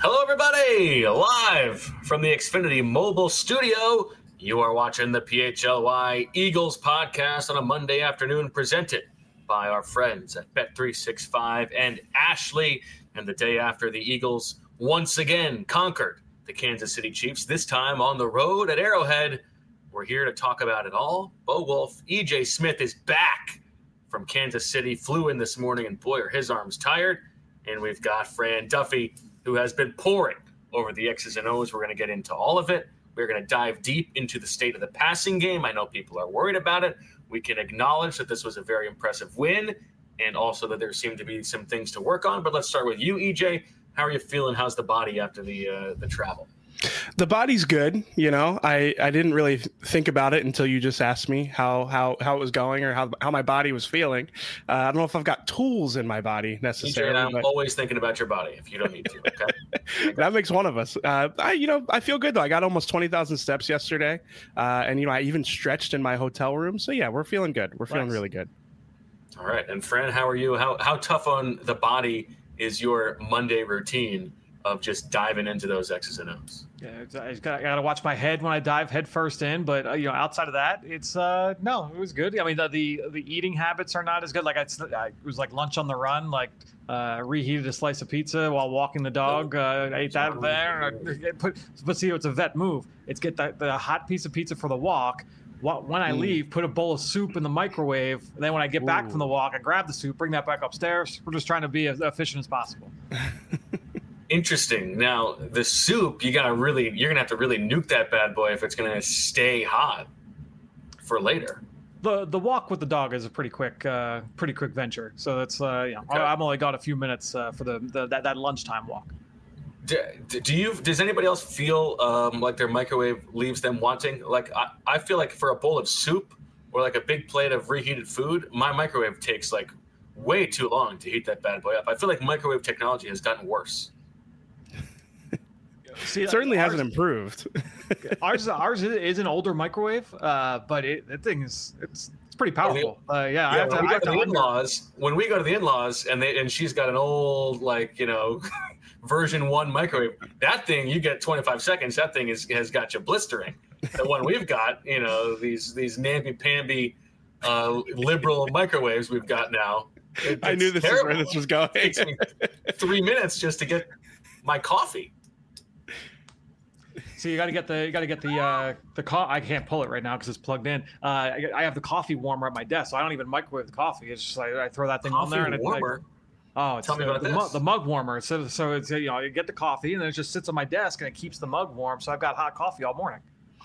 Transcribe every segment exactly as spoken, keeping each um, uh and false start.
Hello, everybody! Live from the Xfinity Mobile Studio, you are watching the P H L Y Eagles podcast on a Monday afternoon, presented by our friends at Bet three sixty-five and Ashley. And the day after the Eagles once again conquered the Kansas City Chiefs, this time on the road at Arrowhead. We're here to talk about it all. Bo Wolf, E J Smith is back from Kansas City, flew in this morning, and boy, are his arms tired. And we've got Fran Duffy, who has been pouring over the X's and O's. We're going to get into all of it. We're going to dive deep into the state of the passing game. I know people are worried about it. We can acknowledge that this was a very impressive win and also that there seemed to be some things to work on. But let's start with you, E J. How are you feeling? How's the body after the uh, the travel? The body's good. You know, I, I didn't really think about it until you just asked me how how, how it was going or how, how my body was feeling. Uh, I don't know if I've got tools in my body necessarily. E J, I'm but... always thinking about your body if you don't need to. Okay, that makes one of us. Uh, I you know I feel good though. I got almost twenty thousand steps yesterday, uh, and you know I even stretched in my hotel room. So yeah, we're feeling good. We're feeling nice. Really good. All right, and Fran, how are you? How how tough on the body is your Monday routine of just diving into those X's and O's? Yeah, I got, I got to watch my head when I dive head first in, but uh, you know, outside of that, it's uh, no, it was good. I mean, the, the the eating habits are not as good. Like I, I it was like lunch on the run, like uh, reheated a slice of pizza while walking the dog. Uh, I ate that there. I put, but see, it's a vet move. It's get the, the hot piece of pizza for the walk. When I leave, put a bowl of soup in the microwave. And then when I get Ooh. back from the walk, I grab the soup, bring that back upstairs. We're just trying to be as efficient as possible. Interesting. Now, the soup, you gotta really, you're gonna have to really nuke that bad boy if it's gonna stay hot for later. The the walk with the dog is a pretty quick, uh, pretty quick venture. So that's, uh, you know, okay. I've only got a few minutes uh, for the, the that, that lunchtime walk. Do, do you? Does anybody else feel um, like their microwave leaves them wanting? Like I, I feel like for a bowl of soup or like a big plate of reheated food, my microwave takes like way too long to heat that bad boy up. I feel like microwave technology has gotten worse. See, it certainly ours, hasn't improved. ours ours is an older microwave, uh, but it, that thing is it's it's pretty powerful. Uh, yeah, yeah, I have when to, we I have go to to the under- in-laws, when we go to the in-laws and they and she's got an old like you know version one microwave, that thing you get twenty-five seconds. That thing is has got you blistering. The one we've got, you know, these these namby-pamby uh, liberal microwaves we've got now. It, I knew this is where this was going. It takes me three minutes just to get my coffee. So you got to get the you got to get the uh, the co- I can't pull it right now because it's plugged in. Uh, I, I have the coffee warmer at my desk, so I don't even microwave the coffee. It's just like I throw that thing coffee on there and warmer. It's like, oh, it's Tell me uh, about the, this. mug, the mug warmer. So so it's you know you get the coffee and then it just sits on my desk and it keeps the mug warm. So I've got hot coffee all morning.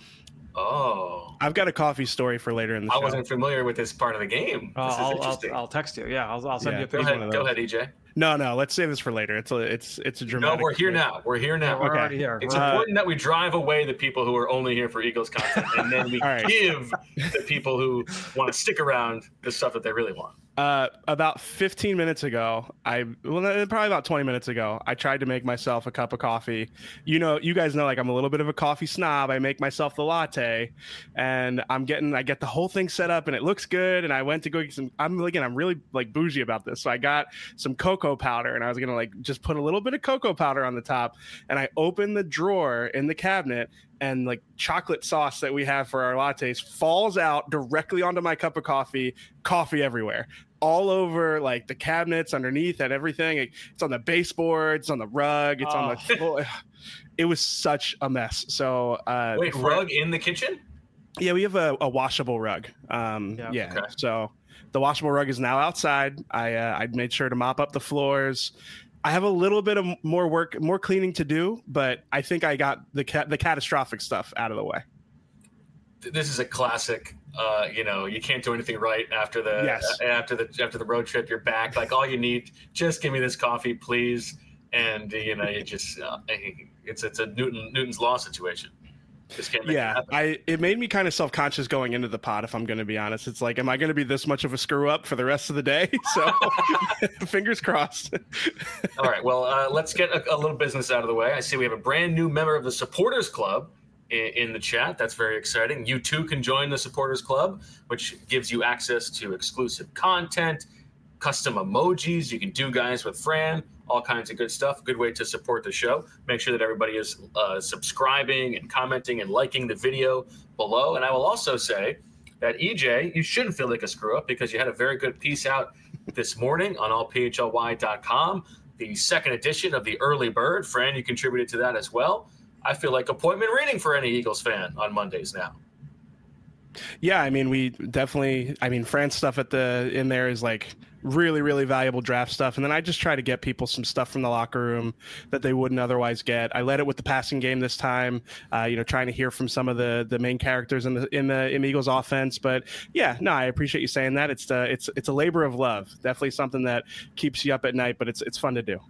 Oh, I've got a coffee story for later in the I show. I wasn't familiar with this part of the game. Uh, this is I'll, interesting. I'll, I'll text you. Yeah, I'll, I'll send Yeah, you a Go picture. ahead, go ahead, E J. No, no, let's save this for later. It's a, it's, it's a dramatic. No, we're here story. now. We're here now. Yeah, we're Okay. already here. It's Uh, important that we drive away the people who are only here for Eagles content, and then we right. give the people who want to stick around the stuff that they really want. Uh, about fifteen minutes ago, I well, probably about twenty minutes ago, I tried to make myself a cup of coffee. You know, you guys know, like I'm a little bit of a coffee snob. I make myself the latte, and I'm getting, I get the whole thing set up, and it looks good. And I went to go get some. I'm again, I'm really like bougie about this, so I got some cocoa powder, and I was gonna like just put a little bit of cocoa powder on the top. And I opened the drawer in the cabinet, and like chocolate sauce that we have for our lattes falls out directly onto my cup of coffee, coffee everywhere, all over like the cabinets underneath and everything. It's on the baseboard, it's on the rug, it's oh. on the floor. It was such a mess. So uh, wait, rug in the kitchen? Yeah, we have a, a washable rug. Um, yeah. yeah. Okay. So the washable rug is now outside. I uh, I made sure to mop up the floors. I have a little bit of more work, more cleaning to do, but I think I got the ca- the catastrophic stuff out of the way. This is a classic. Uh, you know, you can't do anything right after the yes. uh, after the after the road trip. You're back. Like all you need, just give me this coffee, please. And you know, you just uh, it's it's a Newton Newton's law situation. Just can't make yeah, it happen. I it made me kind of self-conscious going into the pod, if I'm going to be honest. It's like, am I going to be this much of a screw up for the rest of the day? So fingers crossed. All right, well, uh, let's get a, a little business out of the way. I see we have a brand new member of the Supporters Club in, in the chat. That's very exciting. You too can join the Supporters Club, which gives you access to exclusive content, custom emojis you can do guys with Fran, all kinds of good stuff. Good way to support the show. Make sure that everybody is uh, subscribing and commenting and liking the video below. And I will also say that, E J, you shouldn't feel like a screw up because you had a very good piece out this morning on all P H L Y dot com, the second edition of the Early Bird. Fran, you contributed to that as well. I feel like appointment reading for any Eagles fan on Mondays now. Yeah, I mean, we definitely, I mean, Fran's stuff at the in there is like really, really valuable draft stuff. And then I just try to get people some stuff from the locker room that they wouldn't otherwise get. I led it with the passing game this time, uh, you know, trying to hear from some of the the main characters in the in the in the Eagles offense. But yeah, no, I appreciate you saying that. It's uh, it's it's a labor of love. Definitely something that keeps you up at night, but it's it's fun to do.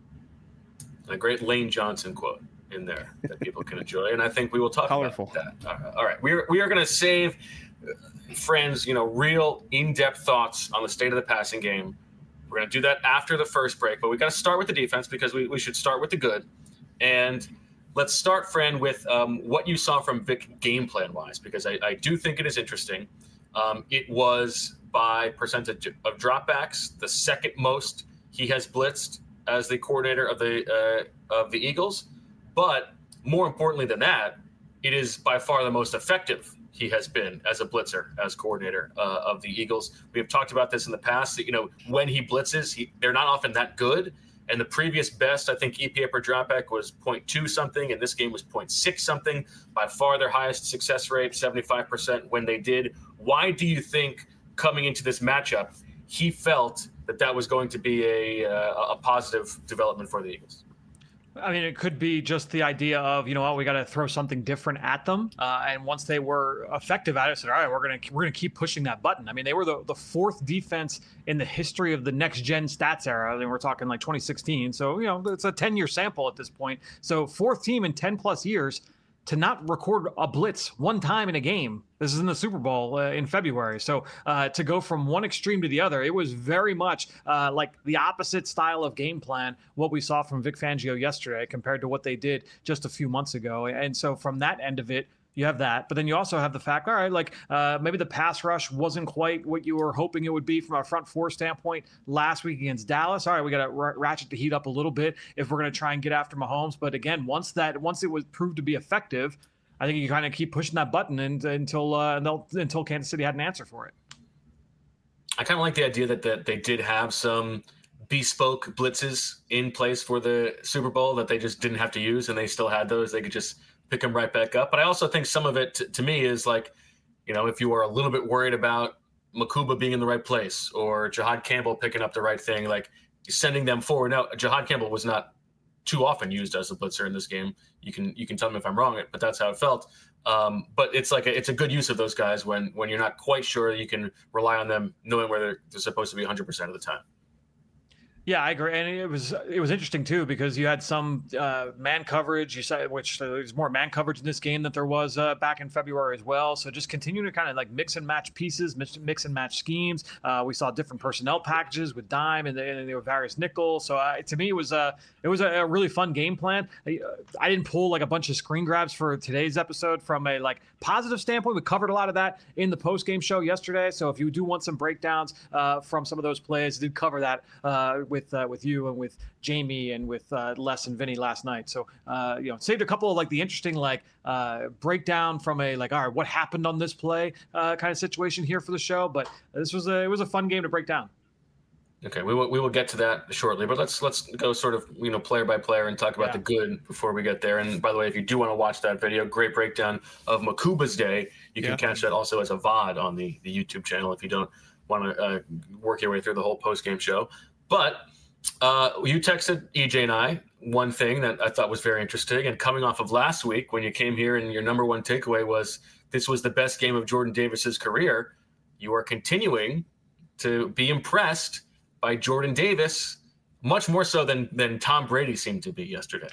A great Lane Johnson quote in there that people can enjoy, and I think we will talk Colorful. about that. All right, all right. we are we are going to save friends, you know, real in-depth thoughts on the state of the passing game. We're going to do that after the first break, but we got to start with the defense because we, we should start with the good. And let's start, friend, with um, what you saw from Vic game plan wise, because I, I do think it is interesting. Um, it was by percentage of dropbacks, the second most he has blitzed as the coordinator of the uh, of the Eagles. But more importantly than that, it is by far the most effective he has been as a blitzer, as coordinator uh, of the Eagles. We have talked about this in the past that, you know, when he blitzes, he, they're not often that good. And the previous best, I think, E P A per dropback was point two something, and this game was point six something. By far their highest success rate, seventy-five percent when they did. Why do you think coming into this matchup, he felt that that was going to be a, uh, a positive development for the Eagles? I mean, it could be just the idea of, you know what, we got to throw something different at them. Uh, and once they were effective at it, said, all right, we're going to we're going to keep pushing that button. I mean, they were the, the fourth defense in the history of the next gen stats era. I mean, we're talking like twenty sixteen. So, you know, it's a ten year sample at this point. So fourth team in ten plus years to not record a blitz one time in a game. This is in the Super Bowl uh, in February. So uh, to go from one extreme to the other, it was very much uh, like the opposite style of game plan, what we saw from Vic Fangio yesterday compared to what they did just a few months ago. And so from that end of it, you have that, but then you also have the fact, all right, like uh, maybe the pass rush wasn't quite what you were hoping it would be from a front four standpoint last week against Dallas. All right, we got to r- ratchet the heat up a little bit if we're going to try and get after Mahomes. But again, once that once it was proved to be effective, I think you kind of keep pushing that button and, until uh, until Kansas City had an answer for it. I kind of like the idea that, that they did have some bespoke blitzes in place for the Super Bowl that they just didn't have to use, and they still had those. They could just pick them right back up. But I also think some of it, t- to me, is like, you know, if you are a little bit worried about Makuba being in the right place or Jihad Campbell picking up the right thing, like sending them forward. Now, Jihad Campbell was not too often used as a blitzer in this game. You can you can tell me if I'm wrong, but that's how it felt. Um, but it's like a, it's a good use of those guys when when you're not quite sure. You can rely on them knowing where they're, they're supposed to be one hundred percent of the time. Yeah, I agree, and it was it was interesting too because you had some uh, man coverage. You said which uh, there's more man coverage in this game than there was uh, back in February as well. So just continue to kind of like mix and match pieces, mix, mix and match schemes. Uh, we saw different personnel packages with dime and, the, and there were various nickels. So uh, to me, it was a it was a, a really fun game plan. I, uh, I didn't pull like a bunch of screen grabs for today's episode from a like positive standpoint. We covered a lot of that in the post game show yesterday. So if you do want some breakdowns uh, from some of those plays, I did cover that. Uh, with uh, with you and with Jamie and with uh, Les and Vinny last night. So, uh, you know, saved a couple of like the interesting like uh, breakdown from a like, all right, what happened on this play uh, kind of situation here for the show. But this was a, it was a fun game to break down. Okay, we will we will get to that shortly, but let's let's go sort of, you know, player by player and talk about yeah. the good before we get there. And by the way, if you do want to watch that video, great breakdown of Makuba's day, you can yeah. catch that also as a V O D on the, the YouTube channel if you don't want to uh, work your way through the whole post game show. But uh, you texted E J and I one thing that I thought was very interesting, and coming off of last week when you came here and your number one takeaway was this was the best game of Jordan Davis's career, you are continuing to be impressed by Jordan Davis, much more so than than Tom Brady seemed to be yesterday.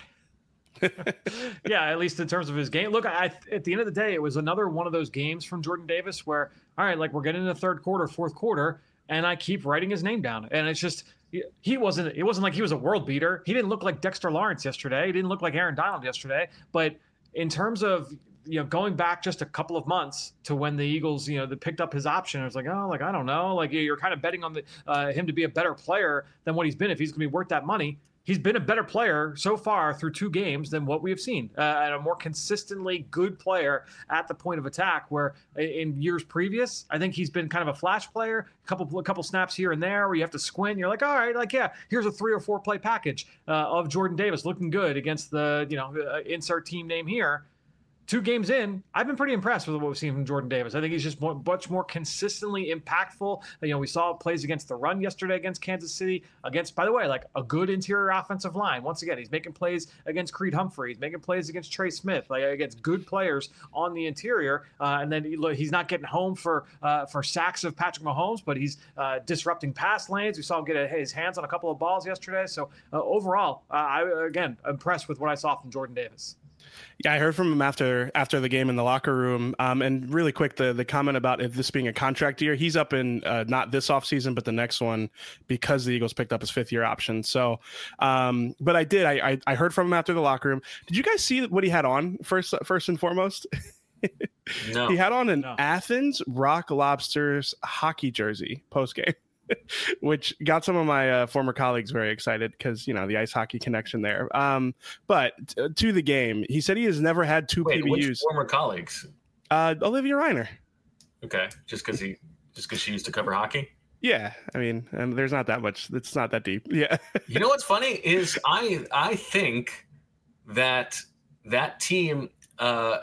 Yeah, at least in terms of his game. Look, I, at the end of the day, it was another one of those games from Jordan Davis where, all right, like we're getting into the third quarter, fourth quarter, and I keep writing his name down. And it's just, he wasn't, it wasn't like he was a world beater. He didn't look like Dexter Lawrence yesterday. He didn't look like Aaron Donald yesterday. But in terms of, you know, going back just a couple of months to when the Eagles, you know, they picked up his option, it was like, oh, like, I don't know. Like, you're kind of betting on the, uh, him to be a better player than what he's been if he's going to be worth that money. he's been a better player so far through two games than what we have seen, uh, and a more consistently good player at the point of attack, where in years previous, I think he's been kind of a flash player, a couple, a couple snaps here and there where you have to squint. And you're like, all right, like, yeah, here's a three or four play package uh, of Jordan Davis looking good against the, you know, uh, insert team name here. Two games in, I've been pretty impressed with what we've seen from Jordan Davis. I think he's just more, much more consistently impactful. You know, we saw plays against the run yesterday against Kansas City, against, by the way, like a good interior offensive line. Once again, he's making plays against Creed Humphrey. He's making plays against Trey Smith, like against good players on the interior. Uh, and then he, he's not getting home for uh, for sacks of Patrick Mahomes, but he's uh, disrupting pass lanes. We saw him get a, his hands on a couple of balls yesterday. So uh, overall, uh, I, again, impressed with what I saw from Jordan Davis. Yeah, I heard from him after after the game in the locker room. Um, and really quick, the the comment about if this being a contract year, he's up in uh, not this offseason, but the next one, because the Eagles picked up his fifth year option. So, um, but I did. I, I I heard from him after the locker room. Did you guys see what he had on first first and foremost? No. He had on an No. Athens Rock Lobsters hockey jersey post game. Which got some of my uh, former colleagues very excited because, you know, the ice hockey connection there. Um, but t- to the game, he said he has never had two Wait, P B Us. which former colleagues? Uh, Olivia Reiner. Okay, just because he, just because she used to cover hockey. Yeah, I mean, and there's not that much. It's not that deep. Yeah. You know what's funny is I I think that that team, uh,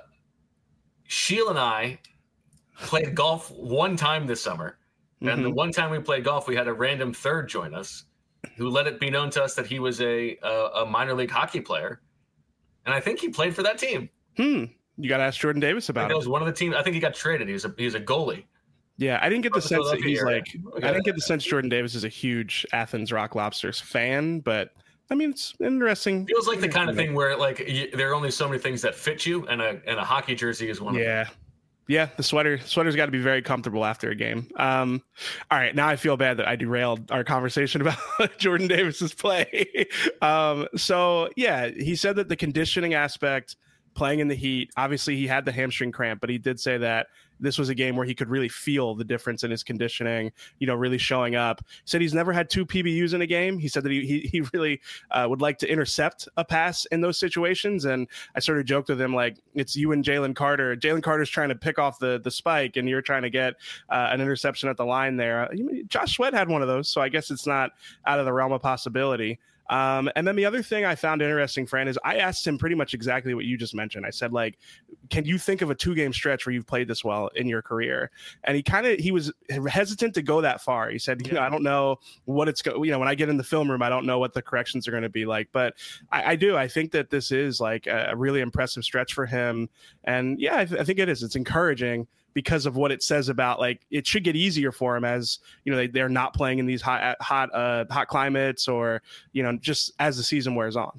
Sheila and I played golf one time this summer. And Mm-hmm. the one time we played golf, we had a random third join us who let it be known to us that he was a a, a minor league hockey player. And I think he played for that team. Hmm. You got to ask Jordan Davis I about think it it. was one of the teams. I think he got traded. He was a, he was a goalie. Yeah, I didn't get the From the sense that he's Philadelphia like, area. I didn't get the sense Jordan Davis is a huge Athens Rock Lobsters fan, but I mean, it's interesting. Feels like the kind of thing where like you, there are only so many things that fit you, and a and a hockey jersey is one of them. Yeah. Yeah, the sweater sweater's got to be very comfortable after a game. Um, all right, now I feel bad that I derailed our conversation about Jordan Davis's play. um, so yeah, he said that the conditioning aspect, playing in the heat, obviously he had the hamstring cramp, but he did say that this was a game where he could really feel the difference in his conditioning, you know, really showing up. He said he's never had two P B Us in a game. He said that he he, he really uh, would like to intercept a pass in those situations. And I sort of joked with him, like, it's you and Jalen Carter. Jalen Carter's trying to pick off the the spike, and you're trying to get uh, an interception at the line there. Josh Sweat had one of those, so I guess it's not out of the realm of possibility. Um, and then the other thing I found interesting, Fran, is I asked him pretty much exactly what you just mentioned. I said, like, can you think of a two game stretch where you've played this well in your career? And he kind of, he was hesitant to go that far. He said, you know, I don't know what it's going, you know, when I get in the film room, I don't know what the corrections are going to be like, but I, I do. I think that this is like a, a really impressive stretch for him. And yeah, I, th- I think it is. It's encouraging because of what it says about, like, it should get easier for him as, you know, they, they're not playing in these hot, hot, uh, hot climates, or, you know, just as the season wears on.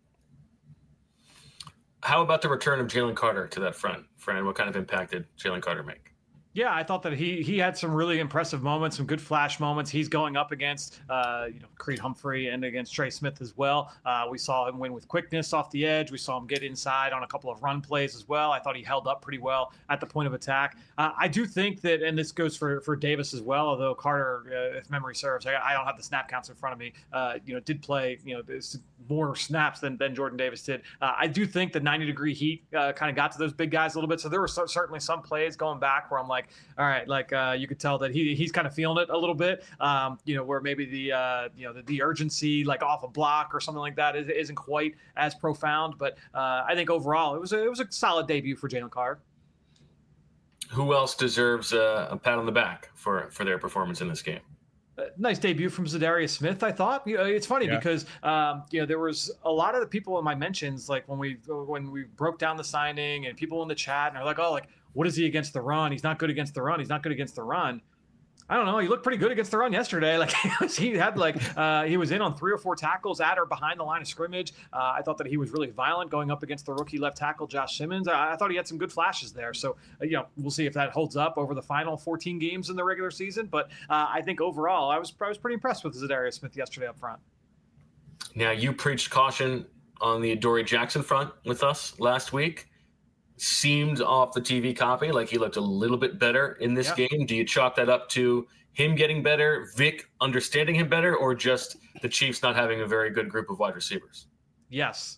How about the return of Jalen Carter to that front, Fran? What kind of impact did Jalen Carter make? Yeah, I thought that he he had some really impressive moments, some good flash moments. He's going up against uh, you know, Creed Humphrey and against Trey Smith as well. Uh, we saw him win with quickness off the edge. We saw him get inside on a couple of run plays as well. I thought he held up pretty well at the point of attack. Uh, I do think that, and this goes for, for Davis as well, although Carter, uh, if memory serves, I, I don't have the snap counts in front of me, uh, you know, did play, you know, more snaps than, than Jordan Davis did. Uh, I do think the ninety degree heat uh, kind of got to those big guys a little bit. So there were so, certainly some plays going back where I'm like, all right, like uh, you could tell that he he's kind of feeling it a little bit, um, you know, where maybe the, uh, you know, the, the urgency, like off a block or something like that is, isn't quite as profound. But uh, I think overall it was a, it was a solid debut for Jalen Carter. Who else deserves uh, a pat on the back for, for their performance in this game? Uh, nice debut from Zadarius Smith, I thought. You know, it's funny Yeah. because um, you know, there was a lot of the people in my mentions, like when we when we broke down the signing, and people in the chat and are like, oh, like, what is he against the run? He's not good against the run. He's not good against the run. I don't know. He looked pretty good against the run yesterday. Like he had like uh, he was in on three or four tackles at or behind the line of scrimmage. Uh, I thought that he was really violent going up against the rookie left tackle Josh Simmons. I, I thought he had some good flashes there. So uh, you know, we'll see if that holds up over the final fourteen games in the regular season. But uh, I think overall, I was I was pretty impressed with Zadarius Smith yesterday up front. Now, you preached caution on the Adoree Jackson front with us last week. seemed off the T V copy like he looked a little bit better in this Yeah. game. Do you chalk that up to him getting better, Vic understanding him better, or just the Chiefs not having a very good group of wide receivers? Yes.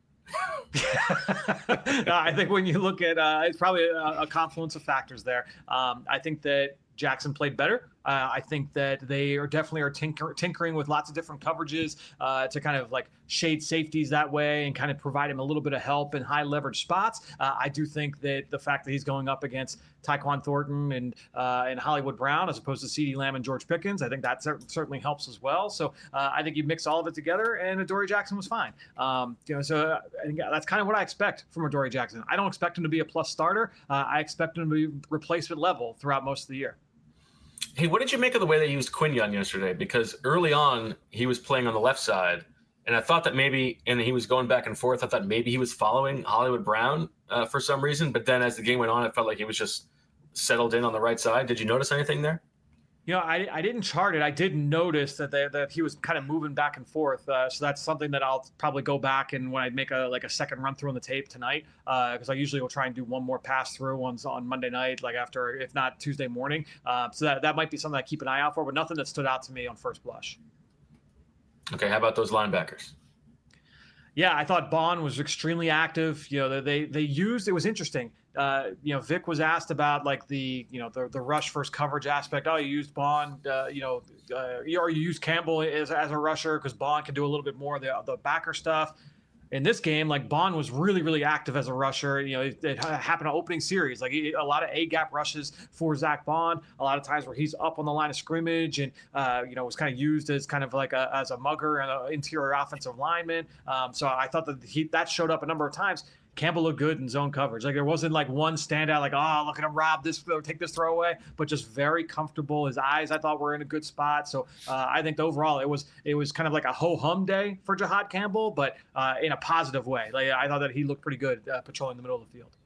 I think when you look at, uh, it's probably a, a confluence of factors there. Um, I think that Jackson played better. Uh, I think that they are definitely are tinker, tinkering with lots of different coverages uh, to kind of like shade safeties that way and kind of provide him a little bit of help in high leverage spots. Uh, I do think that the fact that he's going up against Tyquan Thornton and uh, and Hollywood Brown as opposed to CeeDee Lamb and George Pickens, I think that cer- certainly helps as well. So uh, I think you mix all of it together, and Adoree Jackson was fine. Um, you know, so I think that's kind of what I expect from Adoree Jackson. I don't expect him to be a plus starter. Uh, I expect him to be replacement level throughout most of the year. Hey, what did you make of the way they used Quinyon yesterday? Because early on, he was playing on the left side, and I thought that maybe, and he was going back and forth, I thought maybe he was following Hollywood Brown uh, for some reason, but then as the game went on, it felt like he was just settled in on the right side. Did you notice anything there? You know, I, I didn't chart it. I did notice that they, that he was kind of moving back and forth. Uh, so that's something that I'll probably go back and when I make a like a second run through on the tape tonight, because uh, I usually will try and do one more pass through ones on Monday night, like after, if not Tuesday morning. Uh, so that, that might be something I keep an eye out for, but nothing that stood out to me on first blush. Okay, how about those linebackers? Yeah, I thought Bond was extremely active. You know, they they used, it was interesting. Uh, you know, Vic was asked about like the, you know, the, the rush versus coverage aspect. Oh, you used Bond, uh, you know, uh, or you used Campbell as, as a rusher because Bond can do a little bit more of the, the backer stuff. In this game, like Bond was really, really active as a rusher. You know, it, it happened in opening series. Like a lot of A-gap rushes for Zach Bond. A lot of times where he's up on the line of scrimmage and, uh, you know, was kind of used as kind of like a, as a mugger and an interior offensive lineman. Um, so I thought that he, that showed up a number of times. Campbell looked good in zone coverage. Like there wasn't like one standout, like, oh, look at him rob this or take this throw away, but just very comfortable. His eyes, I thought, were in a good spot. So uh, I think overall it was it was kind of like a ho-hum day for Jihad Campbell, but uh, in a positive way. Like I thought that he looked pretty good uh, patrolling the middle of the field.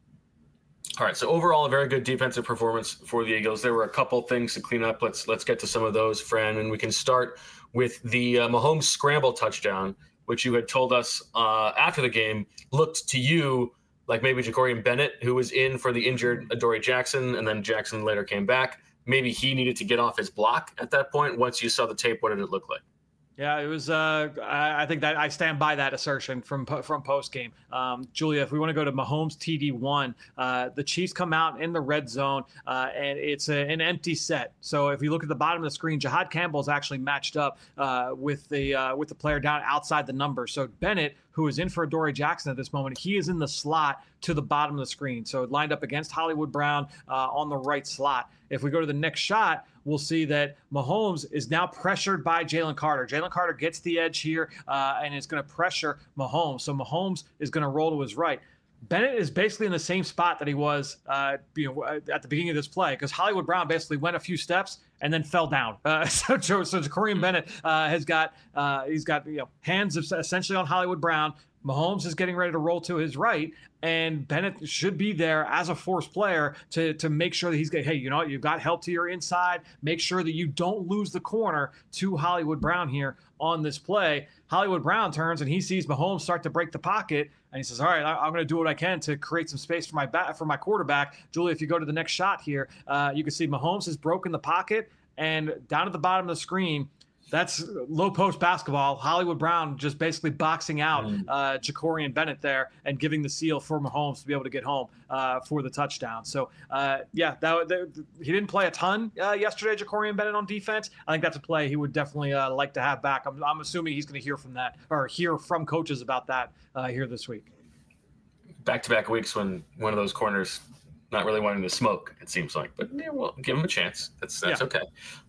All right, so overall, a very good defensive performance for the Eagles. There were a couple things to clean up. Let's let's get to some of those, Fran, and we can start with the uh, Mahomes scramble touchdown, which you had told us uh, after the game looked to you like maybe Jacorian Bennett, who was in for the injured Adoree Jackson, and then Jackson later came back. Maybe he needed to get off his block at that point. Once you saw the tape, what did it look like? Yeah, it was. Uh, I, I think that I stand by that assertion from from post game. Um, Julia, if we want to go to Mahomes T D one, uh, the Chiefs come out in the red zone, uh, and it's a, an empty set. So if you look at the bottom of the screen, Jihad Campbell is actually matched up uh, with the uh, with the player down outside the number. So Bennett, who is in for Adoree Jackson at this moment, he is in the slot to the bottom of the screen. So lined up against Hollywood Brown uh, on the right slot. If we go to the next shot, we'll see that Mahomes is now pressured by Jalen Carter. Jalen Carter gets the edge here uh, and is going to pressure Mahomes. So Mahomes is going to roll to his right. Bennett is basically in the same spot that he was uh, you know, at the beginning of this play because Hollywood Brown basically went a few steps and then fell down. Uh, so, so Jacorian Bennett uh, has got uh, he's got you know hands essentially on Hollywood Brown. Mahomes is getting ready to roll to his right, and Bennett should be there as a force player to, to make sure that he's got, hey, you know what, you've got help to your inside. Make sure that you don't lose the corner to Hollywood Brown here on this play. Hollywood Brown turns and he sees Mahomes start to break the pocket, and he says, all right, I, I'm going to do what I can to create some space for my bat, for my quarterback. Julie, if you go to the next shot here, uh, you can see Mahomes has broken the pocket, and down at the bottom of the screen, that's low post basketball. Hollywood Brown just basically boxing out uh, Jacorian Bennett there and giving the seal for Mahomes to be able to get home uh, for the touchdown. So, uh, yeah, that, that, he didn't play a ton uh, yesterday, Jacorian Bennett on defense. I think that's a play he would definitely uh, like to have back. I'm, I'm assuming he's going to hear from that or hear from coaches about that uh, here this week. Back-to-back weeks when one of those corners not really wanting to smoke, it seems like. But, yeah, well, give him a chance. That's, that's yeah. okay.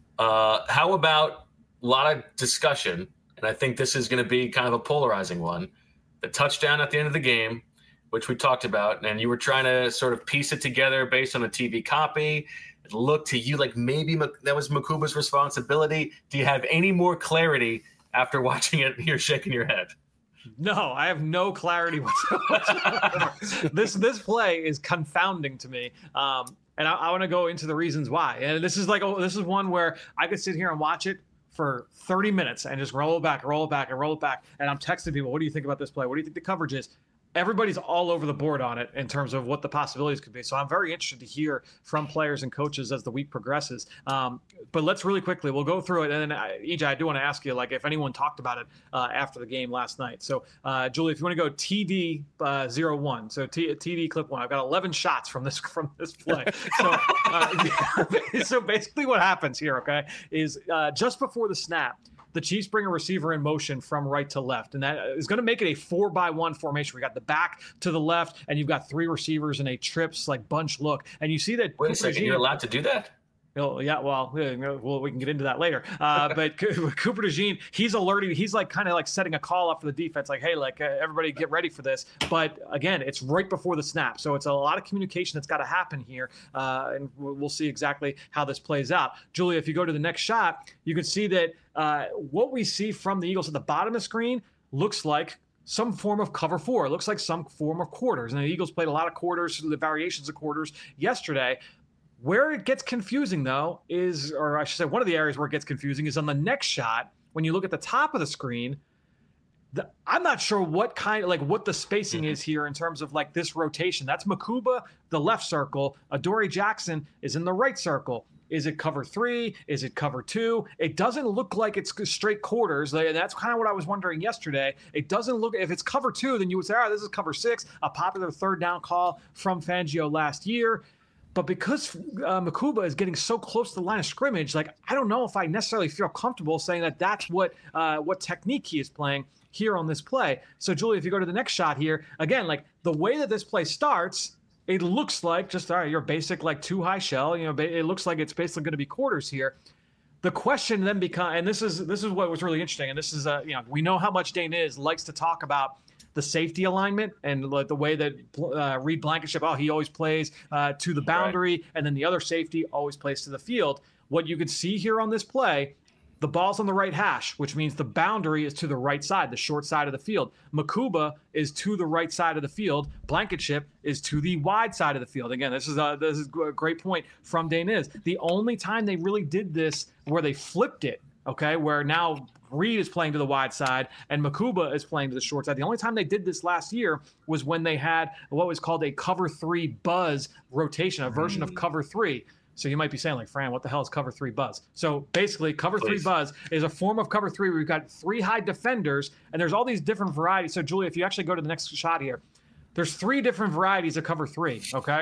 Uh, how about – a lot of discussion, and I think this is going to be kind of a polarizing one. The touchdown at the end of the game, which we talked about, and you were trying to sort of piece it together based on a T V copy. It looked to you like maybe that was Mukuba's responsibility. Do you have any more clarity after watching it? You're shaking your head. No, I have no clarity whatsoever. this this play is confounding to me. Um, and I, I want to go into the reasons why. And this is like, oh, this is one where I could sit here and watch it for thirty minutes and just roll it back, roll it back, and roll it back. And I'm texting people, what do you think about this play? What do you think the coverage is? everybody's all over the board on it in terms of what the possibilities could be. So I'm very interested to hear from players and coaches as the week progresses. Um, but let's really quickly, we'll go through it. And then, uh, E J, I do want to ask you, like, if anyone talked about it uh, after the game last night. So, uh, Julie, if you want to go T D uh, zero one, so T- TD clip one, I've got eleven shots from this from this play. So, uh, so basically what happens here, okay, is uh, just before the snap, the Chiefs bring a receiver in motion from right to left, and that is going to make it a four by one formation. We got the back to the left, and you've got three receivers in a trips like bunch look, and you see that. Wait a second, you're allowed to do that? Oh, yeah, well, well, we can get into that later. Uh, but Cooper DeJean, he's alerting. He's like kind of like setting a call up for the defense, like, hey, like uh, everybody get ready for this. But again, it's right before the snap, so it's a lot of communication that's got to happen here, uh, and we'll see exactly how this plays out. Julia, if you go to the next shot, you can see that uh, what we see from the Eagles at the bottom of the screen looks like some form of cover four. It looks like some form of quarters, and the Eagles played a lot of quarters, the variations of quarters yesterday. Where it gets confusing, though, is, or I should say one of the areas where it gets confusing is on the next shot. When you look at the top of the screen, the, I'm not sure what kind of, like, what the spacing is here in terms of, like, this rotation. That's Mukuba, the left circle. Adoree Jackson is in the right circle. Is it cover three? Is it cover two? It doesn't look like it's straight quarters. And that's kind of what I was wondering yesterday. It doesn't look, if it's cover two, then you would say, all right, this is cover six, a popular third down call from Fangio last year. But because uh, Mukuba is getting so close to the line of scrimmage, like, I don't know if I necessarily feel comfortable saying that that's what uh, what technique he is playing here on this play. So, Julie, if you go to the next shot here, again, like the way that this play starts, it looks like just, all right, your basic like two high shell. You know, it looks like it's basically going to be quarters here. The question then becomes, and this is this is what was really interesting, and this is, uh, you know, we know how much Dane is likes to talk about the safety alignment and like the way that uh, Reed Blankenship, oh, he always plays uh, to the boundary, right, and then the other safety always plays to the field. What you can see here on this play, the ball's on the right hash, which means the boundary is to the right side, the short side of the field. Mukuba is to the right side of the field. Blankenship is to the wide side of the field. Again, this is a, this is a great point from Dane is. The only time they really did this where they flipped it, okay, where now Reed is playing to the wide side and Mukuba is playing to the short side. The only time they did this last year was when they had what was called a cover three buzz rotation, a version of cover three. So you might be saying, like, Fran, what the hell is cover three buzz? So basically, cover Please. three buzz is a form of cover three where we've got three high defenders, and there's all these different varieties. So, Julia, if you actually go to the next shot here, there's three different varieties of cover three, okay?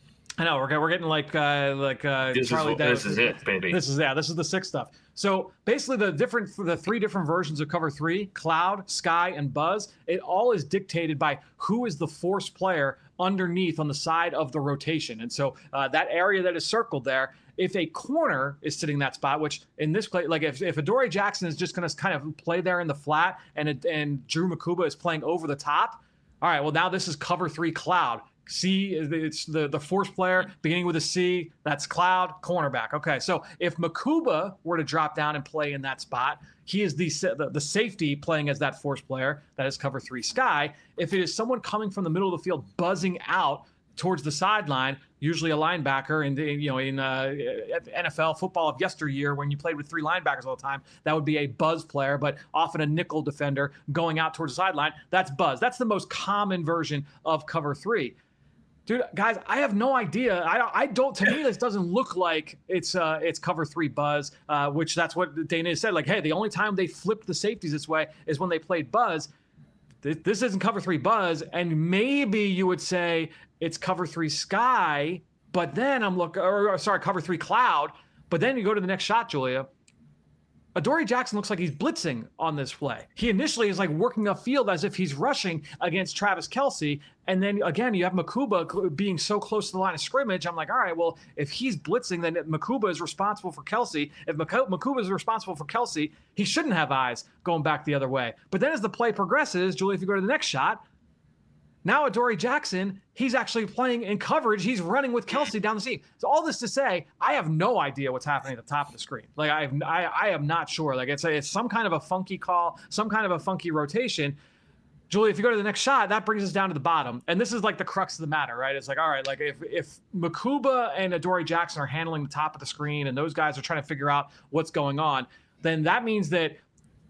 I know we're we're getting like uh, like uh, this Charlie. Is, this is it, baby. This is yeah. This is the sick stuff. So basically, the different the three different versions of cover three: cloud, sky, and buzz. It all is dictated by who is the force player underneath on the side of the rotation. And so uh, that area that is circled there, if a corner is sitting in that spot, which in this play, like if if Adoree Jackson is just going to kind of play there in the flat, and it, and Drew Mukuba is playing over the top. All right. Well, now this is cover three cloud. C, it's the, the force player beginning with a C. That's cloud, cornerback. Okay, so if Mukuba were to drop down and play in that spot, he is the, the the safety playing as that force player. That is cover three sky. If it is someone coming from the middle of the field buzzing out towards the sideline, usually a linebacker, and you know in uh, N F L football of yesteryear, when you played with three linebackers all the time, that would be a buzz player, but often a nickel defender going out towards the sideline. That's buzz. That's the most common version of cover three. Dude, guys, I have no idea. I, I don't. To me, this doesn't look like it's uh, it's cover three buzz, uh, which that's what Dana said. Like, hey, the only time they flipped the safeties this way is when they played buzz. This, this isn't cover three buzz, and maybe you would say it's cover three sky. But then I'm looking, or, or sorry, cover three cloud. But then you go to the next shot, Julia. Adoree Jackson looks like he's blitzing on this play. He initially is like working upfield as if he's rushing against Travis Kelce. And then again, you have Mukuba being so close to the line of scrimmage. I'm like, all right, well, if he's blitzing, then Mukuba is responsible for Kelce. If Mukuba is responsible for Kelce, he shouldn't have eyes going back the other way. But then as the play progresses, Julie, if you go to the next shot, now Adoree Jackson, he's actually playing in coverage. He's running with Kelce down the seam. So all this to say, I have no idea what's happening at the top of the screen. Like I, have, I, I am not sure. Like it's a, it's some kind of a funky call, some kind of a funky rotation. Julie, if you go to the next shot, that brings us down to the bottom. And this is like the crux of the matter, right? It's like, all right, like if if Mukuba and Adoree Jackson are handling the top of the screen and those guys are trying to figure out what's going on, then that means that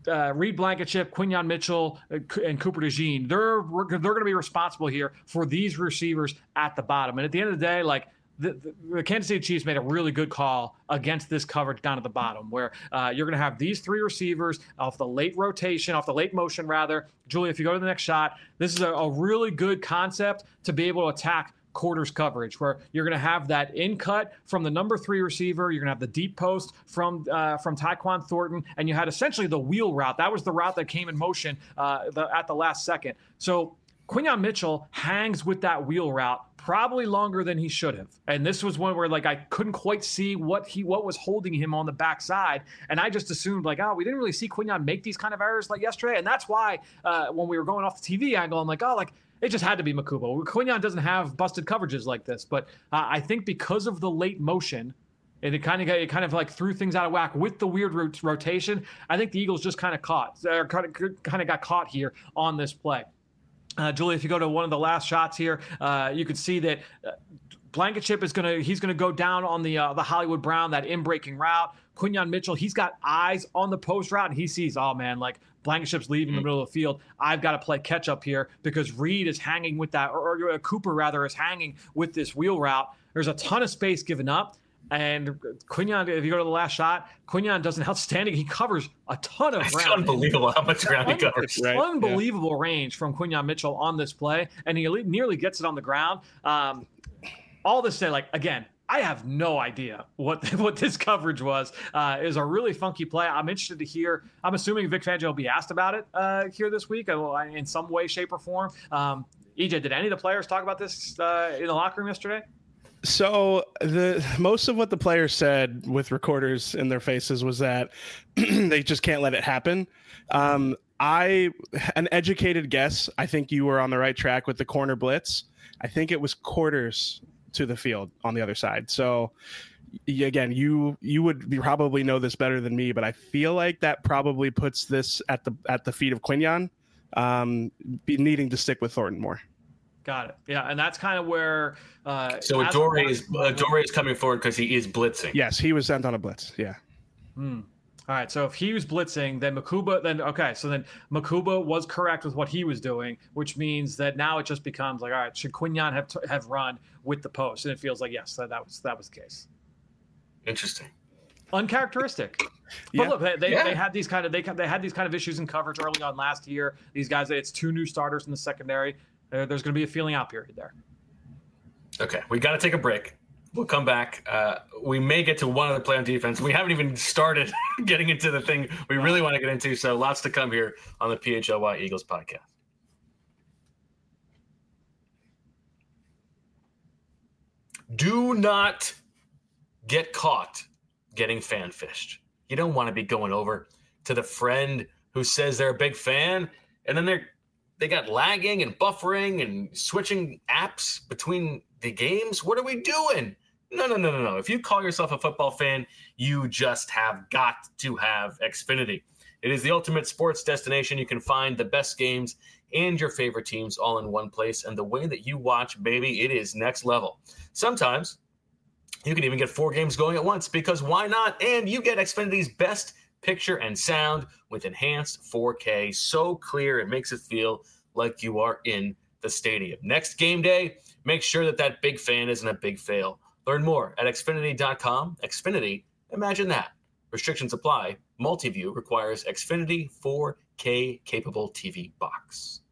uh, Reed Blankenship, Quinyon Mitchell, uh, and Cooper DeJean, they're they're going to be responsible here for these receivers at the bottom. And at the end of the day, like the, the, the Kansas City Chiefs made a really good call against this coverage down at the bottom, where uh, you're going to have these three receivers off the late rotation, off the late motion rather. Julia, if you go to the next shot, this is a, a really good concept to be able to attack quarters coverage, where you're going to have that in cut from the number three receiver. You're going to have the deep post from uh, from Tyquan Thornton, and you had essentially the wheel route. That was the route that came in motion uh, the, at the last second. So Quinyon Mitchell hangs with that wheel route probably longer than he should have. And this was one where like I couldn't quite see what he what was holding him on the backside. And I just assumed like, oh, we didn't really see Quinyon make these kind of errors like yesterday. And that's why uh, when we were going off the T V angle, I'm like, oh, like it just had to be Makubo. Quinyon doesn't have busted coverages like this. But uh, I think because of the late motion, and it kind of got, it kind of like threw things out of whack with the weird rot- rotation. I think the Eagles just kind of caught, or kind of kind of got caught here on this play. Uh, Julie, if you go to one of the last shots here, uh, you can see that uh, Blankenship is gonna he's gonna go down on the uh, the Hollywood Brown, that in breaking route. Quinyon Mitchell, he's got eyes on the post route, and he sees, oh man, like Blankenship's leaving mm-hmm. the middle of the field. I've got to play catch up here because Reed is hanging with that, or, or Cooper rather is hanging with this wheel route. There's a ton of space given up. And Quinyon, if you go to the last shot, Quinyon does an outstanding. He covers a ton of it's ground. It's unbelievable how much ground he covers. Right? Unbelievable yeah. range from Quinyon Mitchell on this play, and he nearly gets it on the ground. Um, all this say, like, again, I have no idea what what this coverage was. Uh, it was a really funky play. I'm interested to hear. I'm assuming Vic Fangio will be asked about it uh, here this week in some way, shape, or form. Um, E J, did any of the players talk about this uh, in the locker room yesterday? So the most of what the players said with recorders in their faces was that they just can't let it happen. Um, I, an educated guess, I think you were on the right track with the corner blitz. I think it was quarters to the field on the other side. So again, you you would be, probably know this better than me, but I feel like that probably puts this at the at the feet of Quinyon, um, be needing to stick with Thornton more. Got it. Yeah, and that's kind of where. Uh, so Adore is Adore is coming forward because he is blitzing. Yes, he was sent on a blitz. Yeah. Hmm. All right. So if he was blitzing, then Makuba. Then okay. So then Makuba was correct with what he was doing, which means that now it just becomes like, all right, should Quinyon have t- have run with the post? And it feels like yes, that, that was that was the case. Interesting. Uncharacteristic. But yeah. look, they they, yeah. they had these kind of they they had these kind of issues in coverage early on last year. These guys, it's two new starters in the secondary. There's going to be a feeling out period there. Okay, we got to take a break. We'll come back. Uh, we may get to one other play on defense. We haven't even started getting into the thing we really want to get into, so lots to come here on the P H L Y Eagles podcast. Do not get caught getting fan fished. You don't want to be going over to the friend who says they're a big fan, and then they're They got lagging and buffering and switching apps between the games. What are we doing? No, no, no, no, no. If you call yourself a football fan, you just have got to have Xfinity. It is the ultimate sports destination. You can find the best games and your favorite teams all in one place. And the way that you watch, baby, it is next level. Sometimes you can even get four games going at once because why not? And you get Xfinity's best picture and sound with enhanced four K. So clear, it makes it feel like you are in the stadium. Next game day, make sure that that big fan isn't a big fail. Learn more at Xfinity dot com. Xfinity, imagine that. Restrictions apply. Multiview requires Xfinity four K capable T V box.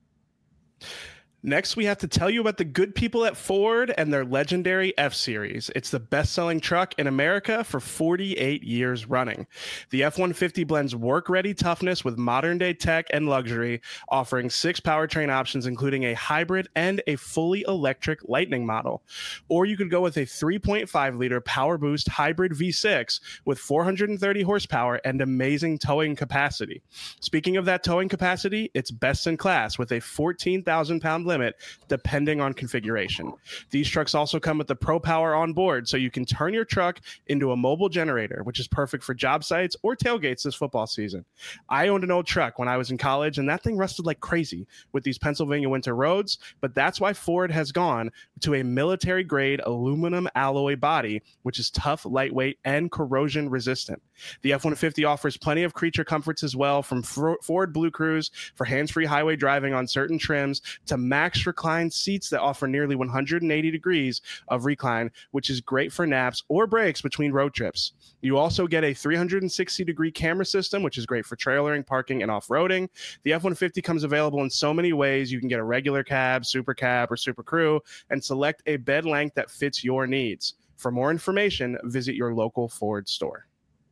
Next, we have to tell you about the good people at Ford and their legendary F-Series. It's the best-selling truck in America for forty-eight years running. The F one fifty blends work-ready toughness with modern-day tech and luxury, offering six powertrain options, including a hybrid and a fully electric Lightning model. Or you could go with a three point five liter Power Boost hybrid V six with four hundred thirty horsepower and amazing towing capacity. Speaking of that towing capacity, it's best in class with a fourteen thousand pound limit limit, depending on configuration. These trucks also come with the Pro Power on board, so you can turn your truck into a mobile generator, which is perfect for job sites or tailgates this football season. I owned an old truck when I was in college, and that thing rusted like crazy with these Pennsylvania winter roads, but that's why Ford has gone to a military-grade aluminum alloy body, which is tough, lightweight, and corrosion resistant. The F one fifty offers plenty of creature comforts as well, from Ford Blue Cruise for hands-free highway driving on certain trims to max recline seats that offer nearly one hundred eighty degrees of recline, which is great for naps or breaks between road trips. You also get a three hundred sixty degree camera system, which is great for trailering, parking, and off-roading. The F one fifty comes available in so many ways. You can get a regular cab, super cab, or super crew, and select a bed length that fits your needs. For more information, visit your local Ford store.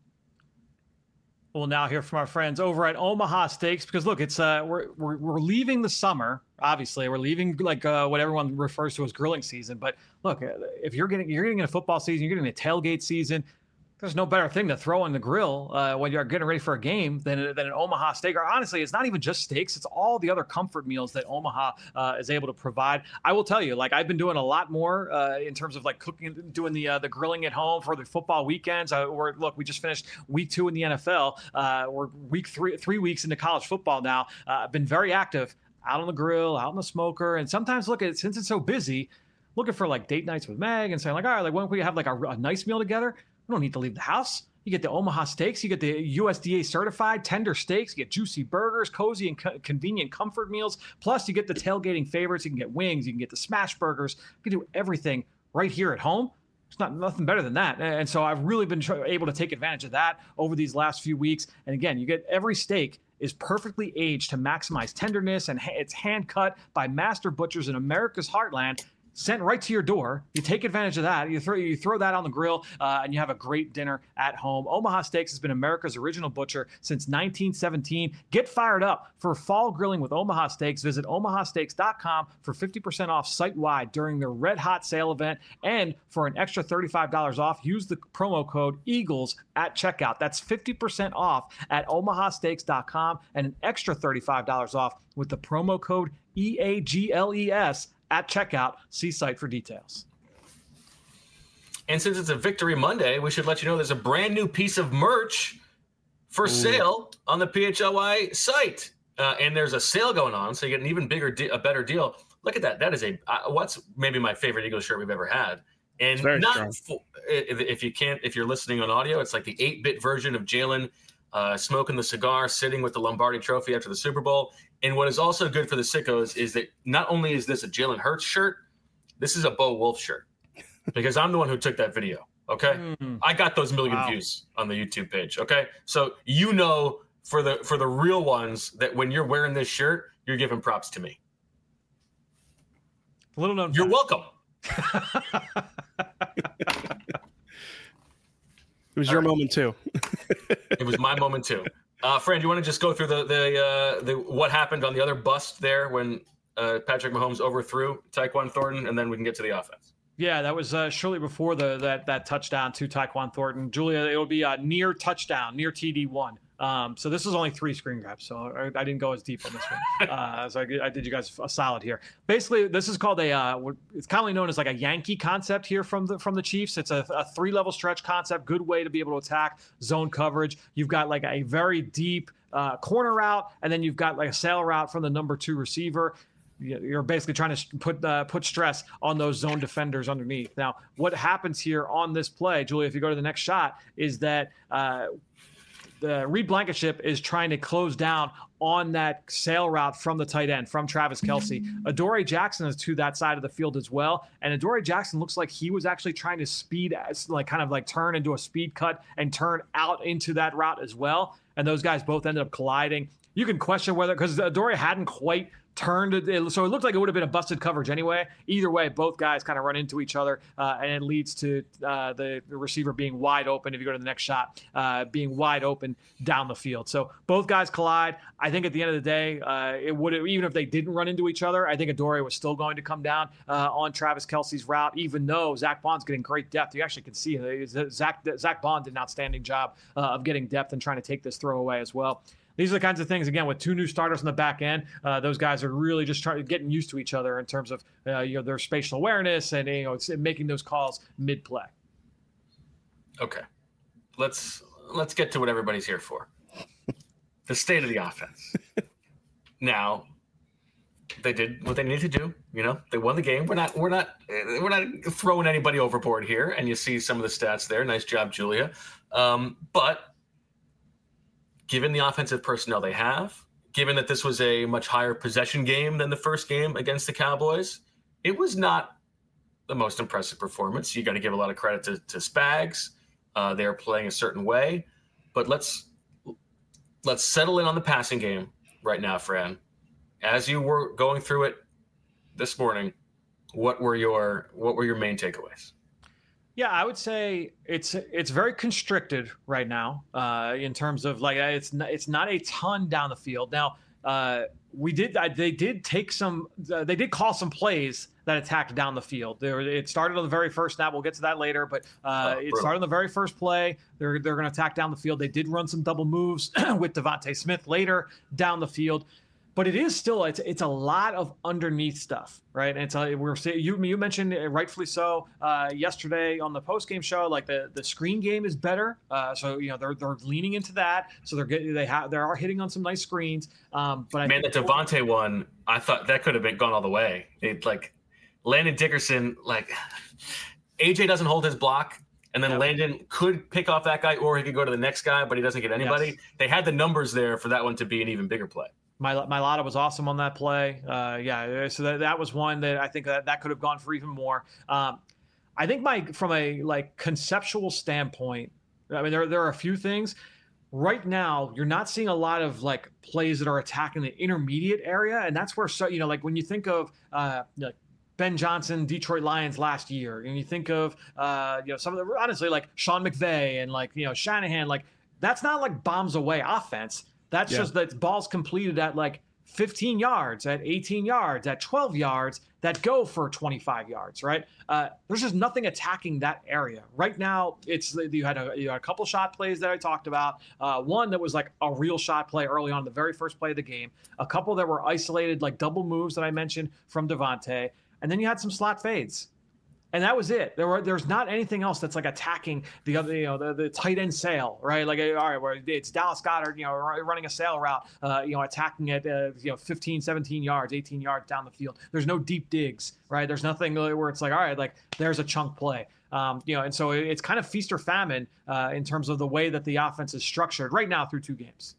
We'll now hear from our friends over at Omaha Steaks, because look, it's uh, we're, we're we're leaving the summer. Obviously, we're leaving like uh, what everyone refers to as grilling season. But look, if you're getting you're getting a football season, you're getting a tailgate season. There's no better thing to throw on the grill uh, when you're getting ready for a game than, than an Omaha steak. Or honestly, it's not even just steaks. It's all the other comfort meals that Omaha uh, is able to provide. I will tell you, like I've been doing a lot more uh, in terms of like cooking, doing the uh, the grilling at home for the football weekends. Uh, we're, look, we just finished week two in the N F L. Uh, we're week three, three weeks into college football now. Uh, I've been very active out on the grill, out on the smoker. And sometimes look at it, since it's so busy, looking for like date nights with Meg and saying like, all right, like when can we have like a, a nice meal together? We don't need to leave the house. You get the Omaha Steaks. You get the U S D A certified tender steaks. You get juicy burgers, cozy and co- convenient comfort meals. Plus, you get the tailgating favorites. You can get wings. You can get the smash burgers. You can do everything right here at home. It's not nothing better than that. And so I've really been able to take advantage of that over these last few weeks. And again, you get every steak is perfectly aged to maximize tenderness, and it's hand cut by master butchers in America's heartland. Sent right to your door. You take advantage of that. You throw you throw that on the grill, uh, and you have a great dinner at home. Omaha Steaks has been America's original butcher since nineteen seventeen. Get fired up for fall grilling with Omaha Steaks. Visit omaha steaks dot com for fifty percent off site-wide during the Red Hot Sale event. And for an extra thirty-five dollars off, use the promo code EAGLES at checkout. That's fifty percent off at omaha steaks dot com and an extra thirty-five dollars off with the promo code E A G L E S at checkout. See site for details. And since it's a Victory Monday, we should let you know there's a brand new piece of merch for Ooh. sale on the P H L Y site. Uh, and there's a sale going on, so you get an even bigger, de- a better deal. Look at that. That is a uh, what's maybe my favorite Eagles shirt we've ever had. And not full, if, if you can't, if you're listening on audio, it's like the eight-bit version of Jalen uh, smoking the cigar, sitting with the Lombardi Trophy after the Super Bowl. And what is also good for the sickos is that not only is this a Jalen Hurts shirt, this is a Bo Wolf shirt, because I'm the one who took that video. Okay, mm. I got those million wow. views on the YouTube page. Okay, so you know for the for the real ones that when you're wearing this shirt, you're giving props to me. A little known. You're welcome. It was All your right. moment too. It was my moment too. Uh, Fran, do you want to just go through the the uh, the what happened on the other bust there when uh, Patrick Mahomes overthrew Tyquan Thornton, and then we can get to the offense. Yeah, that was uh, shortly before the that that touchdown to Tyquan Thornton. Julia, it'll be a near touchdown, near T D one. Um, so this is only three screen grabs, so I, I didn't go as deep on this one. Uh, so I, I did you guys a solid here. Basically, this is called a uh, it's commonly known as like a Yankee concept here from the from the Chiefs. It's a, a three level stretch concept, good way to be able to attack zone coverage. You've got like a very deep uh, corner route, and then you've got like a sail route from the number two receiver. You're basically trying to put uh, put stress on those zone defenders underneath. Now, what happens here on this play, Julia, if you go to the next shot, is that uh, the Reed Blankenship is trying to close down on that sail route from the tight end, from Travis Kelce. Adoree Jackson is to that side of the field as well. And Adoree Jackson looks like he was actually trying to speed, like kind of like turn into a speed cut and turn out into that route as well. And those guys both ended up colliding. You can question whether, because Adoree hadn't quite turned it, so it looked like it would have been a busted coverage anyway. Either way, both guys kind of run into each other, uh, and it leads to uh, the, the receiver being wide open. If you go to the next shot, uh, being wide open down the field. So both guys collide. I think at the end of the day, uh, it would have, even if they didn't run into each other, I think Adoree was still going to come down uh, on Travis Kelce's route, even though Zach Bond's getting great depth. You actually can see it. Zach Zach Bond did an outstanding job uh, of getting depth and trying to take this throw away as well. these are the kinds of things, again, with two new starters on the back end. Uh, those guys are really just trying getting used to each other in terms of uh, you know their spatial awareness and you know it's making those calls mid play. Okay, let's let's get to what everybody's here for. The state of the offense. Now, they did what they needed to do. You know, they won the game. We're not we're not we're not throwing anybody overboard here. And you see some of the stats there. Nice job, Julia. Um, but given the offensive personnel they have, given that this was a much higher possession game than the first game against the Cowboys, it was not the most impressive performance. You got to give a lot of credit to, to Spags. Uh, they're playing a certain way, but let's let's settle in on the passing game right now, Fran. As you were going through it this morning, what were your what were your main takeaways? Yeah, I would say it's it's very constricted right now uh, in terms of like it's not, it's not a ton down the field. Now uh, we did they did take some uh, they did call some plays that attacked down the field. There, it started on the very first snap. We'll get to that later, but uh, oh, it started on the very first play. They're they're going to attack down the field. They did run some double moves with Devontae Smith later down the field. But it is still it's it's a lot of underneath stuff, right? And it's a, we're you you mentioned rightfully so uh, yesterday on the post game show, like the, the screen game is better, uh, so you know they're they're leaning into that, so they're getting they have they are hitting on some nice screens. Um, but I man, the Devontae one, I thought that could have been gone all the way. It like Landon Dickerson, like A J doesn't hold his block. And then yep. Landon could pick off that guy, or he could go to the next guy, but he doesn't get anybody. Yes. They had the numbers there for that one to be an even bigger play. My Mailata was awesome on that play. Uh, yeah, so that, that was one that I think that, that could have gone for even more. Um, I think my from a like conceptual standpoint, I mean there there are a few things. Right now, you're not seeing a lot of like plays that are attacking the intermediate area, and that's where so you know like when you think of uh, like Ben Johnson, Detroit Lions last year, and you think of uh, you know some of the honestly like Sean McVay and like you know Shanahan, like that's not like bombs away offense. That's yeah. just that balls completed at like fifteen yards, at eighteen yards, at twelve yards that go for twenty-five yards, right? Uh, there's just nothing attacking that area. Right now, it's you had a, you had a couple shot plays that I talked about. Uh, one that was like a real shot play early on, the very first play of the game. A couple that were isolated, like double moves that I mentioned from Devontae. And then you had some slot fades. And that was it. There were there's not anything else that's like attacking the other, you know, the, the tight end sail, right? Like, all right, where it's Dallas Goedert, you know, running a sail route, uh, you know, attacking at, uh, you know, fifteen, seventeen yards, eighteen yards down the field. There's no deep digs, right? There's nothing where it's like, all right, like there's a chunk play. Um, you know, and so it's kind of feast or famine uh, in terms of the way that the offense is structured right now through two games.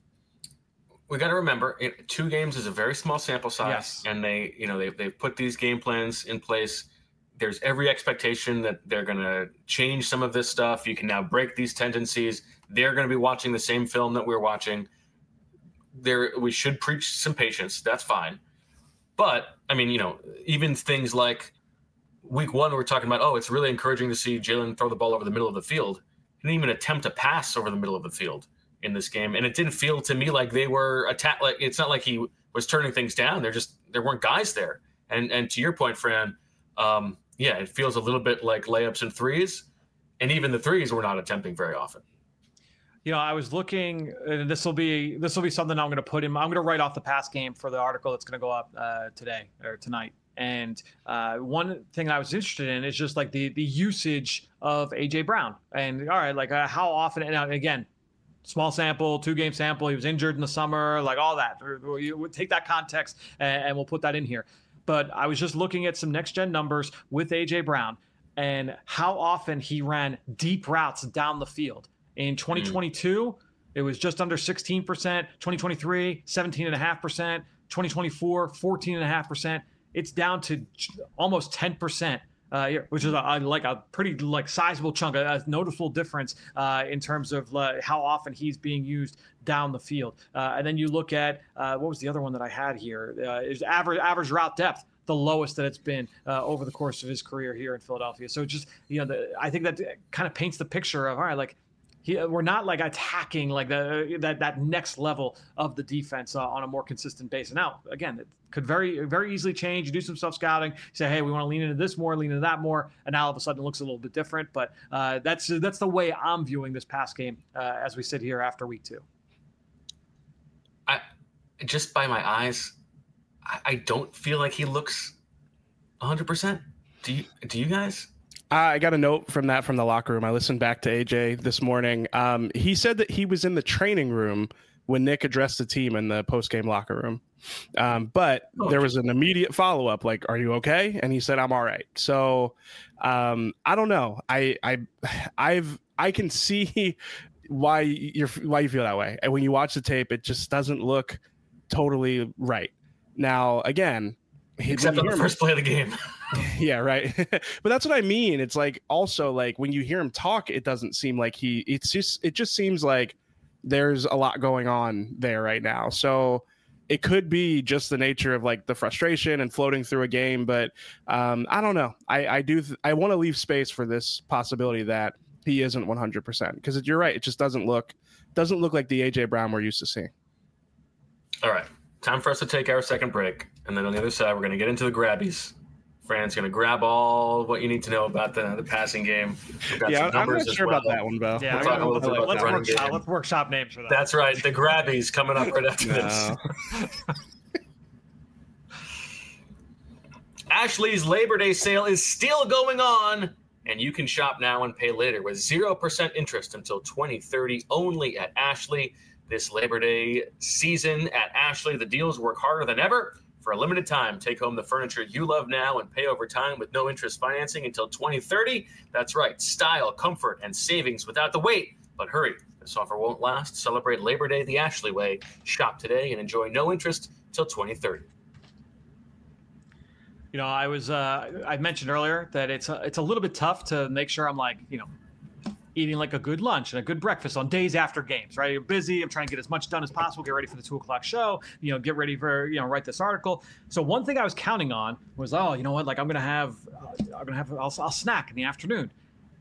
We got to remember, it, two games is a very small sample size, yes. and they, you know, they they've put these game plans in place. There's every expectation that they're going to change some of this stuff. You can now break these tendencies. They're going to be watching the same film that we're watching. There, we should preach some patience. That's fine. But, I mean, you know, even things like week one, we're talking about, oh, it's really encouraging to see Jalen throw the ball over the middle of the field. He didn't even attempt to pass over the middle of the field in this game. And it didn't feel to me like they were attack. Like it's not like he was turning things down. They're just, there weren't guys there. And, and to your point, Fran, um, yeah, it feels a little bit like layups and threes, and even the threes we're not attempting very often. You know, I was looking, and this will be this will be something I'm going to put in. I'm going to write off the pass game for the article that's going to go up uh, today or tonight. And uh, one thing I was interested in is just like the the usage of A J Brown. And all right, like uh, how often? And again, small sample, two game sample. He was injured in the summer, like all that. You take that context, and, and we'll put that in here. But I was just looking at some next-gen numbers with A J Brown and how often he ran deep routes down the field. In twenty twenty-two, mm. it was just under sixteen percent. twenty twenty-three, seventeen point five percent. twenty twenty-four, fourteen point five percent. It's down to almost ten percent, uh, which is a, like a pretty like sizable chunk, a, a noticeable difference uh, in terms of uh, how often he's being used down the field. Uh, and then you look at, uh, what was the other one that I had here? Uh, is average average route depth, the lowest that it's been uh, over the course of his career here in Philadelphia. So just, you know, the, I think that kind of paints the picture of, all right, like he, we're not like attacking like the, that, that next level of the defense uh, on a more consistent basis. Now, again, it could very, very easily change. You do some self scouting, say, hey, we want to lean into this more, lean into that more. And now all of a sudden it looks a little bit different, but uh, that's, that's the way I'm viewing this pass game uh, as we sit here after week two. just by my eyes, I, I don't feel like he looks one hundred percent. Do you? Do you guys? I got a note from that from the locker room. I listened back to A J this morning. Um, he said that he was in the training room when Nick addressed the team in the post-game locker room. Um, but oh, there was an immediate follow-up, like, are you okay? And he said, I'm all right. So um, I don't know. I, I, I've, I can see why you're, why you feel that way. And when you watch the tape, it just doesn't look totally right. Now, again, except on the first play of the game. Yeah, right. But that's what I mean. It's like also like when you hear him talk, it doesn't seem like he it's just it just seems like there's a lot going on there right now. So it could be just the nature of like the frustration and floating through a game. But um, I don't know. I, I do. Th- I want to leave space for this possibility that he isn't one hundred percent because you're right. It just doesn't look doesn't look like the A J Brown we're used to seeing. All right. Time for us to take our second break. And then on the other side, we're going to get into the grabbies. Fran's going to grab all what you need to know about the, the passing game. Yeah, I'm not sure well. about that one, Bo. Yeah, we'll let's, let's, let's, workshop, let's workshop names for that. That's right. The grabbies coming up right after this. Ashley's Labor Day sale is still going on, and you can shop now and pay later with zero percent interest until twenty thirty only at Ashley. This Labor Day season at Ashley, the deals work harder than ever. For a limited time, take home the furniture you love now and pay over time with no interest financing until twenty thirty. That's right, style, comfort, and savings without the wait. But hurry, this offer won't last. Celebrate Labor Day the Ashley way. Shop today and enjoy no interest till twenty thirty. You know, I was uh, I mentioned earlier that it's a, it's a little bit tough to make sure I'm like, you know, eating like a good lunch and a good breakfast on days after games, right? You're busy. I'm trying to get as much done as possible, get ready for the two o'clock show, you know, get ready for, you know, write this article. So one thing I was counting on was, oh, you know what? Like I'm going to have, uh, I'm going to have, I'll, I'll snack in the afternoon.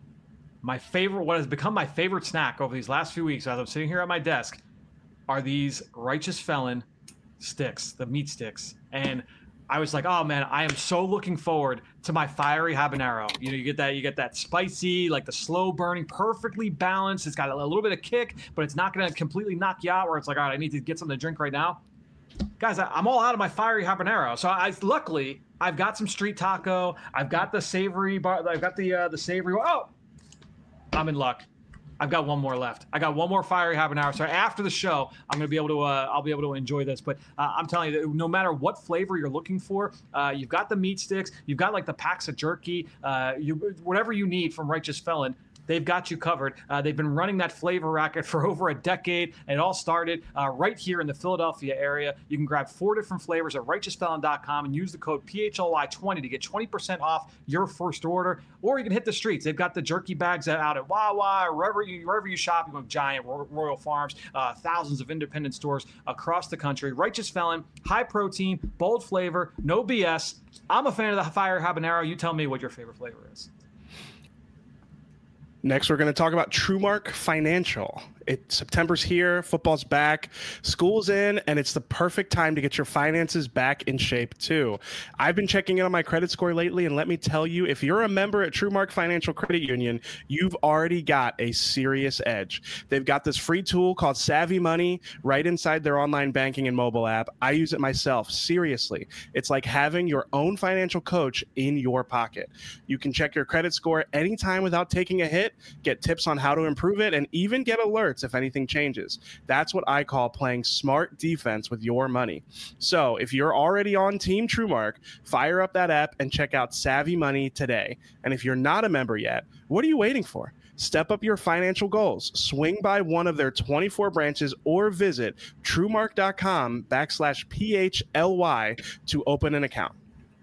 My favorite, what has become my favorite snack over these last few weeks as I'm sitting here at my desk are these Righteous Felon sticks, the meat sticks. And I was like, oh man, I am so looking forward to my fiery habanero. You know, you get that, you get that spicy, like the slow burning, perfectly balanced. It's got a little bit of kick, but it's not going to completely knock you out where it's like, all right, I need to get something to drink right now. Guys, I, I'm all out of my fiery habanero. So I, luckily, I've got some street taco. I've got the savory bar. I've got the uh, the savory. Oh, I'm in luck. I've got one more left. I got one more fiery habanero. So after the show, I'm going to be able to, uh, I'll be able to enjoy this. But uh, I'm telling you, no matter what flavor you're looking for, uh, you've got the meat sticks, you've got like the packs of jerky, uh, you whatever you need from Righteous Felon. They've got you covered. Uh, they've been running that flavor racket for over a decade. And it all started uh, right here in the Philadelphia area. You can grab four different flavors at righteous felon dot com and use the code P H L Y twenty to get twenty percent off your first order. Or you can hit the streets. They've got the jerky bags out at Wawa, wherever you wherever you shop. You go Giant, Royal Farms, uh, thousands of independent stores across the country. Righteous Felon, high protein, bold flavor, no B S. I'm a fan of the fire habanero. You tell me what your favorite flavor is. Next, we're going to talk about TrueMark Financial. It, September's here, football's back, school's in, and it's the perfect time to get your finances back in shape too. I've been checking in on my credit score lately, and let me tell you, if you're a member at TrueMark Financial Credit Union, you've already got a serious edge. They've got this free tool called Savvy Money right inside their online banking and mobile app. I use it myself. Seriously, it's like having your own financial coach in your pocket. You can check your credit score anytime without taking a hit, get tips on how to improve it, and even get alerts if anything changes. That's what I call playing smart defense with your money. So if you're already on Team TrueMark, fire up that app and check out Savvy Money today. And if you're not a member yet, what are you waiting for? Step up your financial goals. Swing by one of their twenty-four branches or visit truemark.com backslash PHLY to open an account.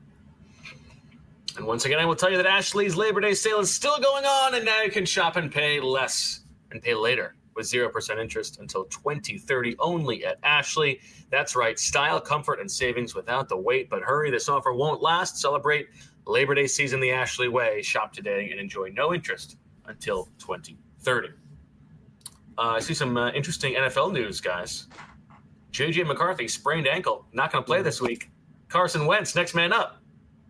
And once again, I will tell you that Ashley's Labor Day sale is still going on, and now you can shop and pay less and pay later with zero percent interest until twenty thirty only at Ashley. That's right, style, comfort, and savings without the wait. But hurry, this offer won't last. Celebrate Labor Day season the Ashley way. Shop today and enjoy no interest until twenty thirty. Uh, I see some uh, interesting N F L news, guys. J J McCarthy, sprained ankle, not going to play this week. Carson Wentz, next man up.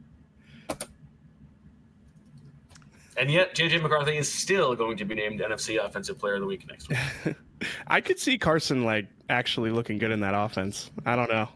And yet, J J McCarthy is still going to be named N F C Offensive Player of the Week next week. I could see Carson like actually looking good in that offense. I don't know.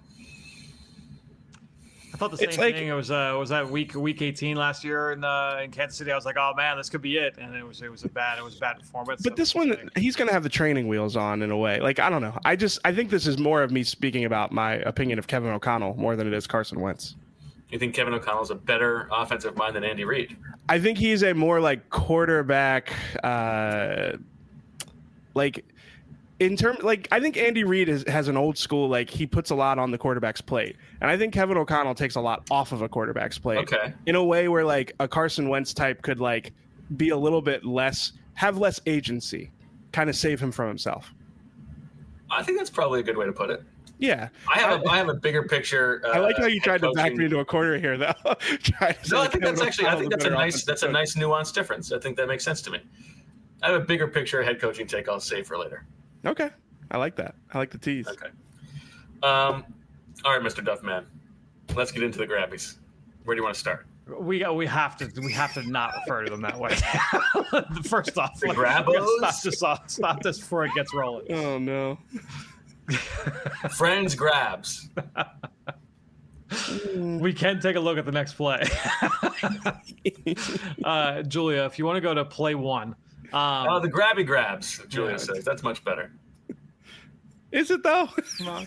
I thought the same It's like- thing. It was uh, was that week week eighteen last year in uh, in Kansas City. I was like, oh man, this could be it, and it was it was a bad it was a bad performance. But this one, he's going to have the training wheels on in a way. Like, I don't know. I just, I think this is more of me speaking about my opinion of Kevin O'Connell more than it is Carson Wentz. You think Kevin O'Connell's a better offensive mind than Andy Reid? I think he's a more like quarterback, uh, like in term, like I think Andy Reid is, has an old school, like he puts a lot on the quarterback's plate. And I think Kevin O'Connell takes a lot off of a quarterback's plate. Okay. In a way where like a Carson Wentz type could like be a little bit less, have less agency, kind of save him from himself. I think that's probably a good way to put it. Yeah. I have a, I have a bigger picture. Uh, I like how you tried to back coaching. me into a corner here, though. Trying to say No, I think Kevin that's actually. I think O'Connell's that's a better nice. offensive That's a coach. nice nuanced difference. I think that makes sense to me. I have a bigger picture head coaching take. I'll save for later. Okay, I like that. I like the tease. Okay. Um. All right, Mister Duffman. Let's get into the grabbies. Where do you want to start? we we have to we have to not refer to them that way. First off, The like, we gotta Grabbos? stop this off, stop this before it gets rolling. Oh no. Friends grabs. We can take a look at the next play. uh, Julia, if you want to go to play one. Um, Oh, the grabby grabs. Julia Yeah. says that's much better. Is it though? Come on.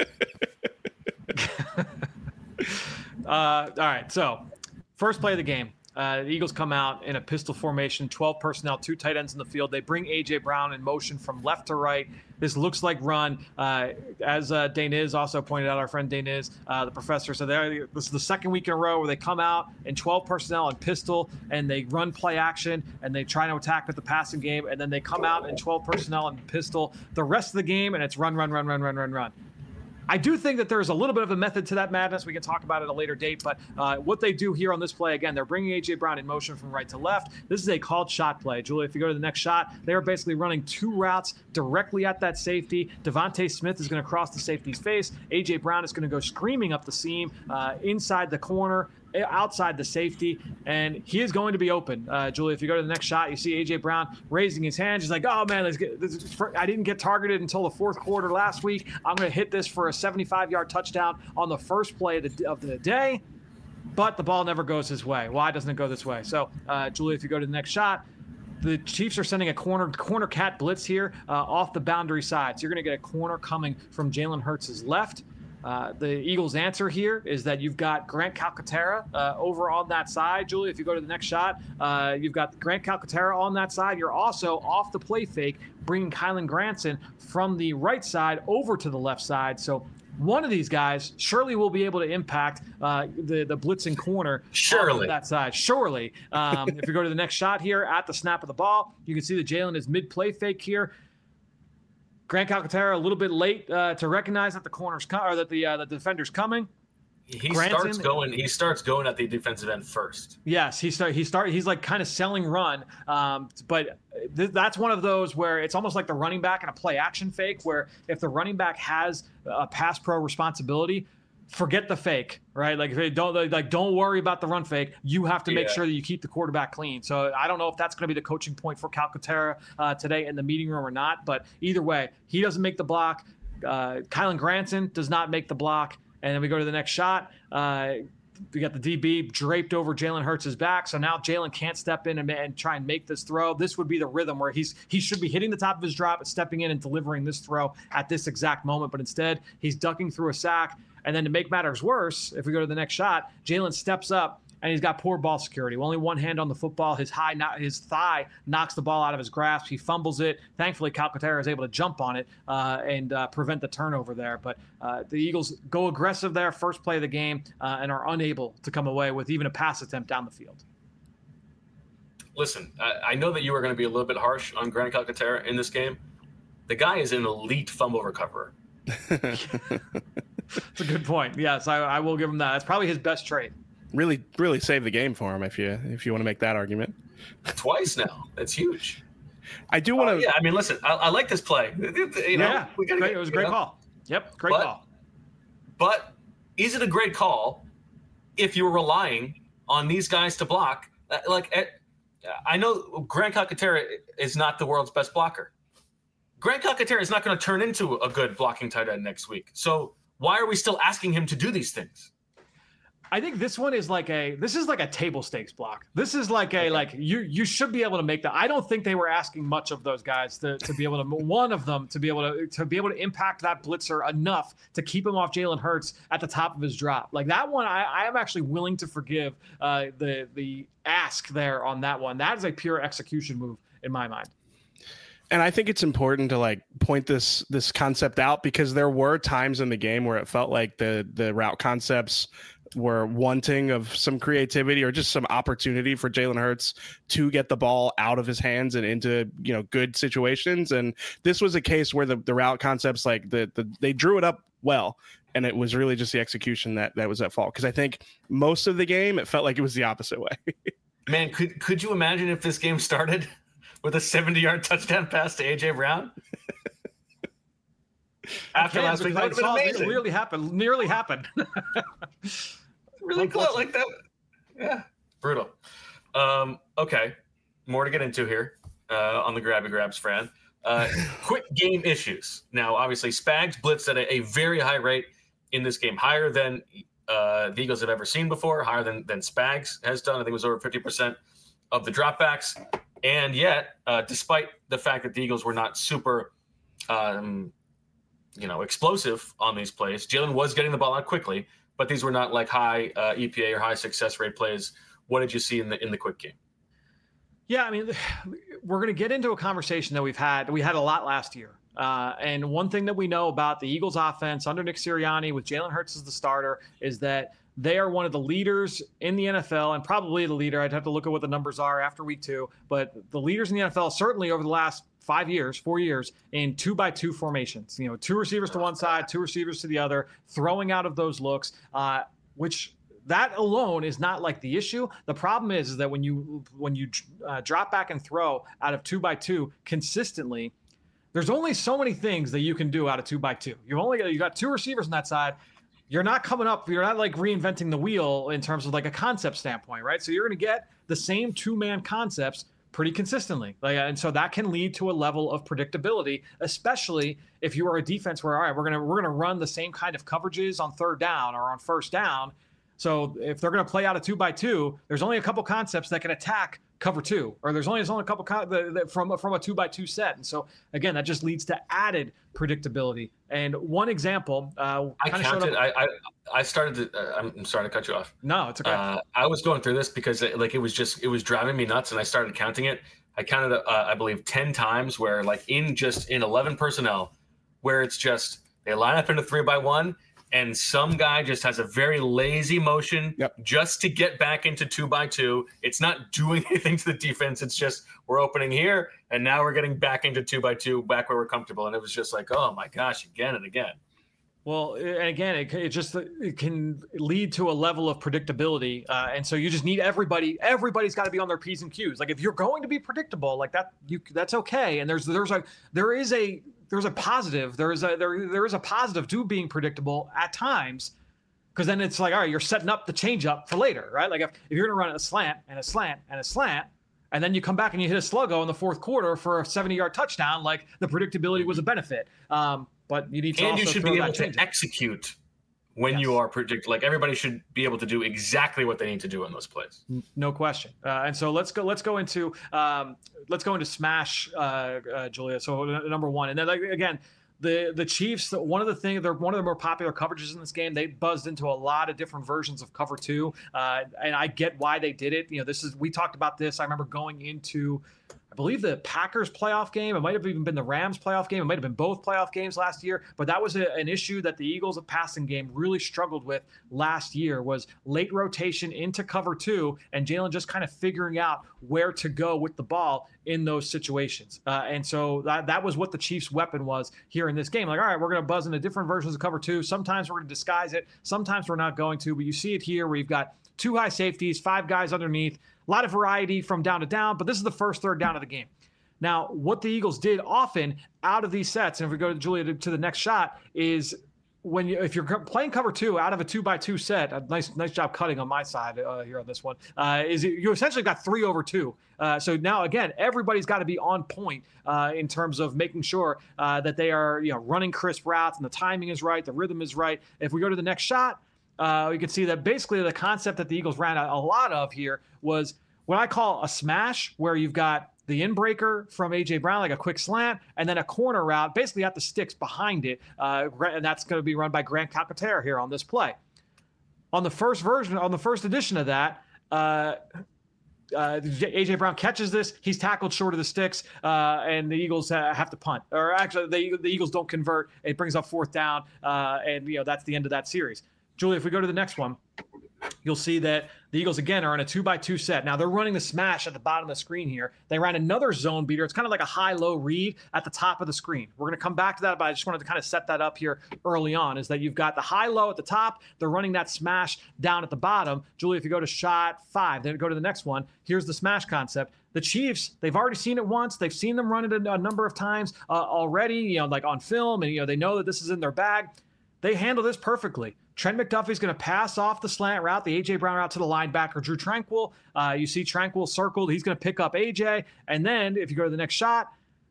uh, all right, so first play of the game. Uh, the Eagles come out in a pistol formation, twelve personnel, two tight ends in the field. They bring A J. Brown in motion from left to right. This looks like run. Uh, as uh, Daniz also pointed out, our friend Daniz, uh, the professor, so they're- this is the second week in a row where they come out in twelve personnel and pistol, and they run play action, and they try to attack with the passing game, and then they come out in twelve personnel and pistol the rest of the game, and it's run, run, run, run, run, run, run. I do think that there's a little bit of a method to that madness. We can talk about it at a later date, but uh, what they do here on this play, again, they're bringing A J. Brown in motion from right to left. This is a called shot play. Julia, if you go to the next shot, they are basically running two routes directly at that safety. Devontae Smith is going to cross the safety's face. A J. Brown is going to go screaming up the seam, uh, inside the corner, outside the safety, and he is going to be open. Uh, Julia, if you go to the next shot, you see A J. Brown raising his hand. He's like, oh man, let's get, this is for, I didn't get targeted until the fourth quarter last week. I'm going to hit this for a seventy-five yard touchdown on the first play of the, of the day, but the ball never goes his way. Why doesn't it go this way? So, uh, Julia, if you go to the next shot, the Chiefs are sending a corner corner cat blitz here uh, off the boundary side. So you're going to get a corner coming from Jalen Hurts' left. Uh, the Eagles' answer here is that you've got Grant Calcaterra uh, over on that side. Julia, if you go to the next shot, uh, you've got Grant Calcaterra on that side. You're also off the play fake, bringing Kylan Granson from the right side over to the left side. So one of these guys surely will be able to impact uh, the, the blitzing corner Surely. on that side. Surely. Um, if you go to the next shot here, at the snap of the ball, you can see that Jalen is mid-play fake here. Grant Calcaterra a little bit late uh, to recognize that the corner's co- or that the uh, the defender's coming. He Granson- starts going. He starts going at the defensive end first. Yes, he start he start he's like kind of selling run, um, but th- that's one of those where it's almost like the running back in a play action fake, where if the running back has a pass pro responsibility, forget the fake, right? Like if they don't like don't worry about the run fake. You have to make Yeah. sure that you keep the quarterback clean. So I don't know if that's going to be the coaching point for Calcaterra uh, today in the meeting room or not, but either way, he doesn't make the block. Uh, Kylan Granson does not make the block. And then we go to the next shot. Uh, we got the D B draped over Jalen Hurts' back. So now Jalen can't step in and, and try and make this throw. This would be the rhythm where he's he should be hitting the top of his drop, stepping in and delivering this throw at this exact moment. But instead, he's ducking through a sack. And then to make matters worse, if we go to the next shot, Jalen steps up and he's got poor ball security. Only one hand on the football. His high, his thigh knocks the ball out of his grasp. He fumbles it. Thankfully, Calcaterra is able to jump on it uh, and uh, prevent the turnover there. But uh, the Eagles go aggressive there, first play of the game, uh, and are unable to come away with even a pass attempt down the field. Listen, I, I know that you are going to be a little bit harsh on Grant Calcaterra in this game. The guy is an elite fumble recoverer. It's a good point. Yes, I, I will give him that. That's probably his best trait. really, really saved the game for him if you if you want to make that argument. Twice now. That's huge. I do want to. Uh, yeah, I mean, listen, I, I like this play. You know, yeah, we gotta great. get- It was a you great know. call. Yep, great But- call. But is it a great call if you're relying on these guys to block? Uh, Like, at, I know Grant Calcaterra is not the world's best blocker. Grant Calcaterra is not going to turn into a good blocking tight end next week. So why are we still asking him to do these things? I think this one is like a this is like a table stakes block. This is like a okay. like you you should be able to make that. I don't think they were asking much of those guys to, to be able to one of them to be able to to be able to impact that blitzer enough to keep him off Jalen Hurts at the top of his drop. Like that one, I, I am actually willing to forgive uh, the the ask there on that one. That is a pure execution move in my mind. And I think it's important to like point this this concept out because there were times in the game where it felt like the the route concepts were wanting of some creativity or just some opportunity for Jalen Hurts to get the ball out of his hands and into, you know, good situations. And this was a case where the, the route concepts, like the, the, they drew it up well. And it was really just the execution that, that was at fault. Cause I think most of the game, it felt like it was the opposite way. Man, could, could you imagine if this game started with a seventy yard touchdown pass to A J Brown? After last week, that would have been amazing. It nearly happened. Nearly happened. Really close like that. Yeah, brutal. Um, okay, more to get into here uh, on the Grabby Grabs, Fran. Uh, quick game issues. Now, obviously, Spags blitzed at a, a very high rate in this game, higher than uh, the Eagles have ever seen before, higher than than Spags has done. I think it was over fifty percent of the dropbacks. And yet, uh, despite the fact that the Eagles were not super um, you know, explosive on these plays, Jalen was getting the ball out quickly, but these were not like high uh, E P A or high success rate plays. What did you see in the in the quick game? Yeah, I mean, we're going to get into a conversation that we've had. We had a lot last year. Uh, and one thing that we know about the Eagles offense under Nick Sirianni with Jalen Hurts as the starter is that they are one of the leaders in the N F L and probably the leader. I'd have to look at what the numbers are after week two, but the leaders in the N F L, certainly over the last five years, four years in two by two formations, you know, two receivers to one side, two receivers to the other, throwing out of those looks, uh, which that alone is not like the issue. The problem is, is that when you, when you uh, drop back and throw out of two by two consistently, there's only so many things that you can do out of two by two. You've only got, you got two receivers on that side. You're not coming up, you're not like reinventing the wheel in terms of like a concept standpoint, right? So you're going to get the same two-man concepts pretty consistently. Like, and so that can lead to a level of predictability, especially if you are a defense where, all right, we're going to, we're going to run the same kind of coverages on third down or on first down. So if they're going to play out a two by two, there's only a couple concepts that can attack cover two, or there's only, there's only a couple con- the, the, from, from a two by two set. And so again, that just leads to added predictability. And one example, uh, I counted, I, I, I started to, uh, I'm sorry to cut you off. No, it's okay. Uh, I was going through this because it, like, it was just, it was driving me nuts. And I started counting it. I counted, uh, I believe ten times where like in just in eleven personnel, where it's just, they line up into three by one. And some guy just has a very lazy motion yep. just to get back into two by two. It's not doing anything to the defense. It's just we're opening here, and now we're getting back into two by two, back where we're comfortable. And it was just like, oh my gosh, again and again. Well, and again, it, it just it can lead to a level of predictability, uh, and so you just need everybody. Everybody's got to be on their P's and Q's. Like if you're going to be predictable, like that, you that's okay. And there's there's a there is a there's a positive. There is a there there is a positive to being predictable at times, because then it's like, all right, you're setting up the change up for later, right? Like if, if you're going to run a slant and a slant and a slant, and then you come back and you hit a sluggo in the fourth quarter for a seventy yard touchdown, like the predictability was a benefit. Um, But you need to and also you should throw be able that to execute when yes. you are predict. Like everybody should be able to do exactly what they need to do in those plays. No question. Uh, and so let's go. Let's go into um, let's go into smash, uh, uh, Julia. So uh, number one, and then like, again, the the Chiefs. One of the things they're one of the more popular coverages in this game. They buzzed into a lot of different versions of cover two, uh, and I get why they did it. You know, this is we talked about this. I remember going into. I believe the Packers playoff game. It might have even been the Rams playoff game. It might have been both playoff games last year. But that was a, an issue that the Eagles' passing game really struggled with last year was late rotation into cover two and Jalen just kind of figuring out where to go with the ball in those situations. Uh, and so that, that was what the Chiefs' weapon was here in this game. Like, all right, we're going to buzz into different versions of cover two. Sometimes we're going to disguise it. Sometimes we're not going to. But you see it here where you've got two high safeties, five guys underneath. A lot of variety from down to down, but this is the first third down of the game. Now, what the Eagles did often out of these sets, and if we go to Julia to, to the next shot, is when you, if you're playing cover two out of a two by two set, a nice nice job cutting on my side uh, here on this one, uh, is it, you essentially got three over two. Uh, so now again, everybody's got to be on point uh, in terms of making sure uh, that they are you know running crisp routes and the timing is right, the rhythm is right. If we go to the next shot, uh, you can see that basically the concept that the Eagles ran a, a lot of here was what I call a smash, where you've got the in-breaker from A J. Brown, like a quick slant, and then a corner route, basically at the sticks behind it, uh, and that's going to be run by Grant Calcaterra here on this play. On the first version, on the first edition of that, uh, uh, A J. Brown catches this. He's tackled short of the sticks, uh, and the Eagles uh, have to punt. Or actually, the, the Eagles don't convert. It brings up fourth down, uh, and you know that's the end of that series. Julie, if we go to the next one, you'll see that the Eagles, again, are in a two-by-two set. Now, they're running the smash at the bottom of the screen here. They ran another zone beater. It's kind of like a high-low read at the top of the screen. We're going to come back to that, but I just wanted to kind of set that up here early on, is that you've got the high-low at the top. They're running that smash down at the bottom. Julie, if you go to shot five, then go to the next one. Here's the smash concept. The Chiefs, they've already seen it once. They've seen them run it a, a number of times uh, already, you know, like on film, and, you know, they know that this is in their bag. They handle this perfectly. Trent McDuffie's going to pass off the slant route, the A J. Brown route, to the linebacker, Drew Tranquill. Uh, you see Tranquill circled. He's going to pick up A J. And then if you go to the next shot,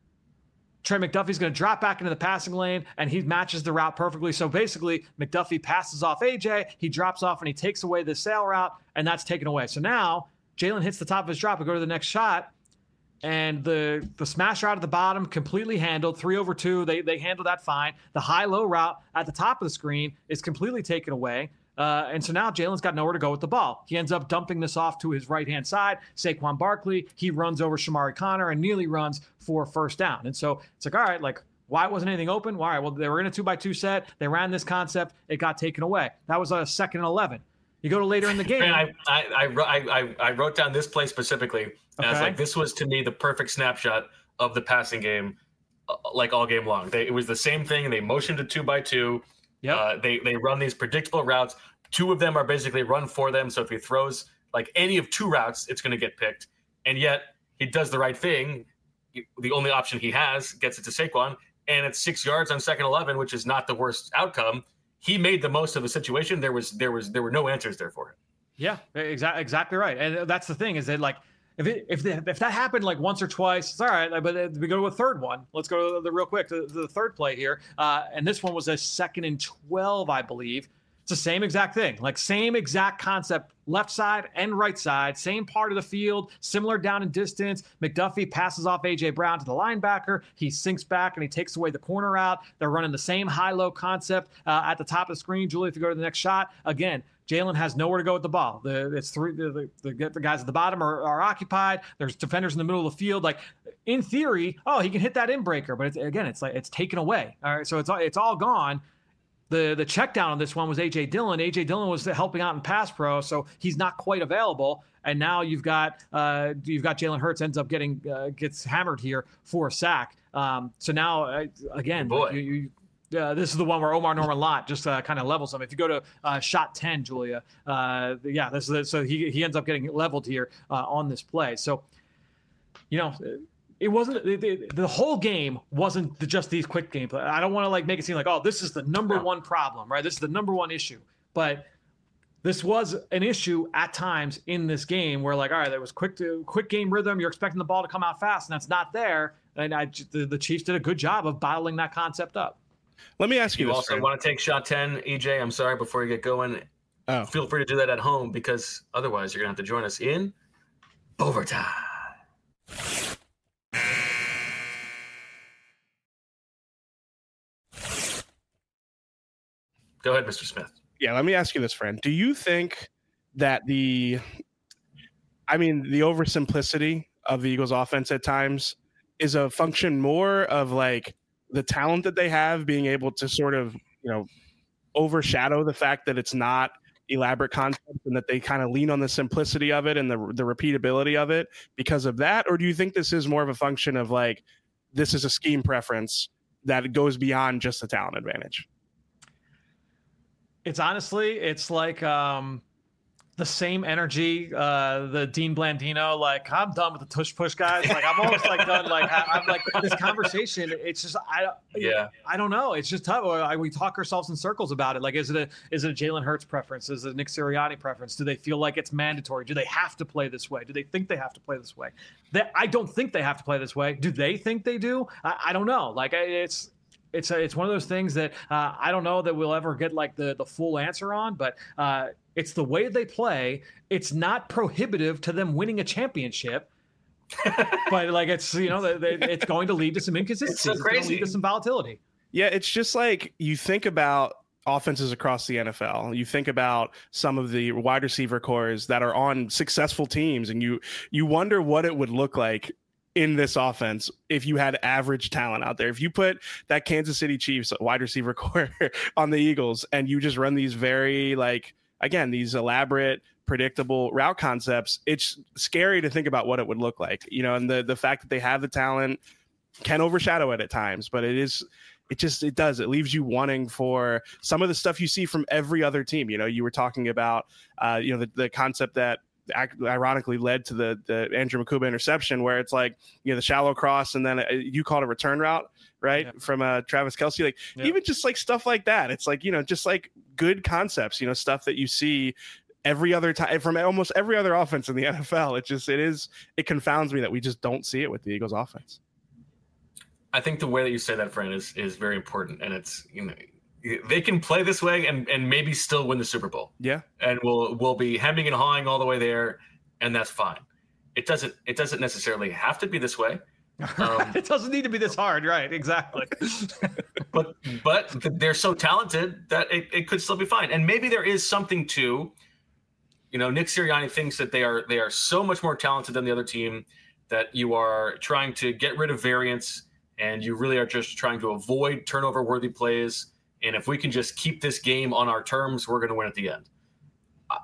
Trent McDuffie's going to drop back into the passing lane, and he matches the route perfectly. So basically, McDuffie passes off A J. He drops off, and he takes away the sail route, and that's taken away. So now Jalen hits the top of his drop. We go to the next shot. And the the smash route at the bottom, completely handled. Three over two, they they handled that fine. The high-low route at the top of the screen is completely taken away. Uh, and so now Jalen's got nowhere to go with the ball. He ends up dumping this off to his right-hand side. Saquon Barkley, he runs over Shamari Connor and nearly runs for first down. And so it's like, all right, like, why wasn't anything open? All right, well, they were in a two-by-two set. They ran this concept. It got taken away. That was a second and eleven. You go to later in the game. I, I, I, I, I wrote down this play specifically. Okay. As like, this was to me the perfect snapshot of the passing game, uh, like all game long. They, it was the same thing. They motioned to two by two. Yep. Uh, they they run these predictable routes. Two of them are basically run for them. So if he throws like any of two routes, it's going to get picked. And yet he does the right thing. The only option he has gets it to Saquon, and it's six yards on second eleven, which is not the worst outcome. He made the most of the situation. There was there was there were no answers there for him. Yeah, exactly, exactly right. And that's the thing, is that like if it, if the, if that happened like once or twice, it's all right. But we go to a third one. Let's go to the real quick to the third play here. Uh, and this one was a second and twelve, I believe. It's the same exact thing, like same exact concept, left side and right side, same part of the field, similar down in distance. McDuffie passes off A J. Brown to the linebacker. He sinks back and he takes away the corner out. They're running the same high-low concept uh, at the top of the screen. Julie, if you go to the next shot, again, Jalen has nowhere to go with the ball. The, it's three. The, the, the guys at the bottom are, are occupied. There's defenders in the middle of the field. Like in theory, oh, he can hit that in breaker, but it's, again, it's like it's taken away. All right, so it's it's all gone. The the check down on this one was A J. Dillon. A J. Dillon was helping out in pass pro, so he's not quite available. And now you've got uh, you've got Jalen Hurts ends up getting uh, gets hammered here for a sack. Um, so now uh, again, boy. you, you Uh, this is the one where Omar Norman Lott just uh, kind of levels him. If you go to uh, shot ten, Julia, uh, yeah, this is it. So he he ends up getting leveled here uh, on this play. So, you know, it wasn't the, the, the whole game wasn't the, just these quick gameplay. I don't want to like make it seem like, oh, this is the number one problem, right? This is the number one issue. But this was an issue at times in this game where, like, all right, there was quick to, quick game rhythm. You're expecting the ball to come out fast, and that's not there. And I, the, the Chiefs did a good job of bottling that concept up. Let me ask you, you this, also friend. want to take shot ten, E J? I'm sorry, before you get going. Oh. Feel free to do that at home, because otherwise you're going to have to join us in overtime. Go ahead, Mister Smith. Yeah, let me ask you this, friend. Do you think that the, I mean, the oversimplicity of the Eagles offense at times is a function more of like the talent that they have being able to sort of, you know, overshadow the fact that it's not elaborate concepts, and that they kind of lean on the simplicity of it and the the repeatability of it because of that? Or do you think this is more of a function of like, this is a scheme preference that goes beyond just the talent advantage? It's honestly, it's like, um, the same energy, uh, the Dean Blandino, like, I'm done with the tush push guys. Like, I'm almost like done. Like, I, I'm like this conversation. It's just, I, yeah, I don't know. It's just tough. I, we talk ourselves in circles about it. Like, is it a, is it a Jalen Hurts preference? Is it a Nick Sirianni preference? Do they feel like it's mandatory? Do they have to play this way? Do they think they have to play this way? They, I don't think they have to play this way. Do they think they do? I, I don't know. Like, it's, it's, a, it's one of those things that uh, I don't know that we'll ever get like the, the full answer on, but uh, it's the way they play. It's not prohibitive to them winning a championship, but like it's, you know, they, they, it's going to lead to some inconsistencies. It's, so crazy. It's going to lead to some volatility. Yeah, it's just like you think about offenses across the N F L. You think about some of the wide receiver cores that are on successful teams, and you you wonder what it would look like in this offense if you had average talent out there. If you put that Kansas City Chiefs wide receiver core on the Eagles and you just run these very, like, again, these elaborate, predictable route concepts, it's scary to think about what it would look like, you know, and the, the fact that they have the talent can overshadow it at times, but it is, it just, it does, it leaves you wanting for some of the stuff you see from every other team. You know, you were talking about, uh, you know, the, the concept that ironically led to the the Andrew Makuba interception, where it's like, you know, the shallow cross and then a, you call it a return route, right? Yeah. From uh, Travis Kelce, like yeah. even just like stuff like that. It's like, you know, just like good concepts, you know, stuff that you see every other time from almost every other offense in the N F L. It just, it is, it confounds me that we just don't see it with the Eagles offense. I think the way that you say that, Fran, is is very important. And it's, you know, they can play this way and, and maybe still win the Super Bowl. Yeah. And we'll we'll be hemming and hawing all the way there, and that's fine. It doesn't it doesn't necessarily have to be this way. Um, it doesn't need to be this hard, right? Exactly. but but they're so talented that it, it could still be fine. And maybe there is something to, you know, Nick Sirianni thinks that they are they are so much more talented than the other team that you are trying to get rid of variance and you really are just trying to avoid turnover worthy plays. And if we can just keep this game on our terms, we're going to win at the end. I,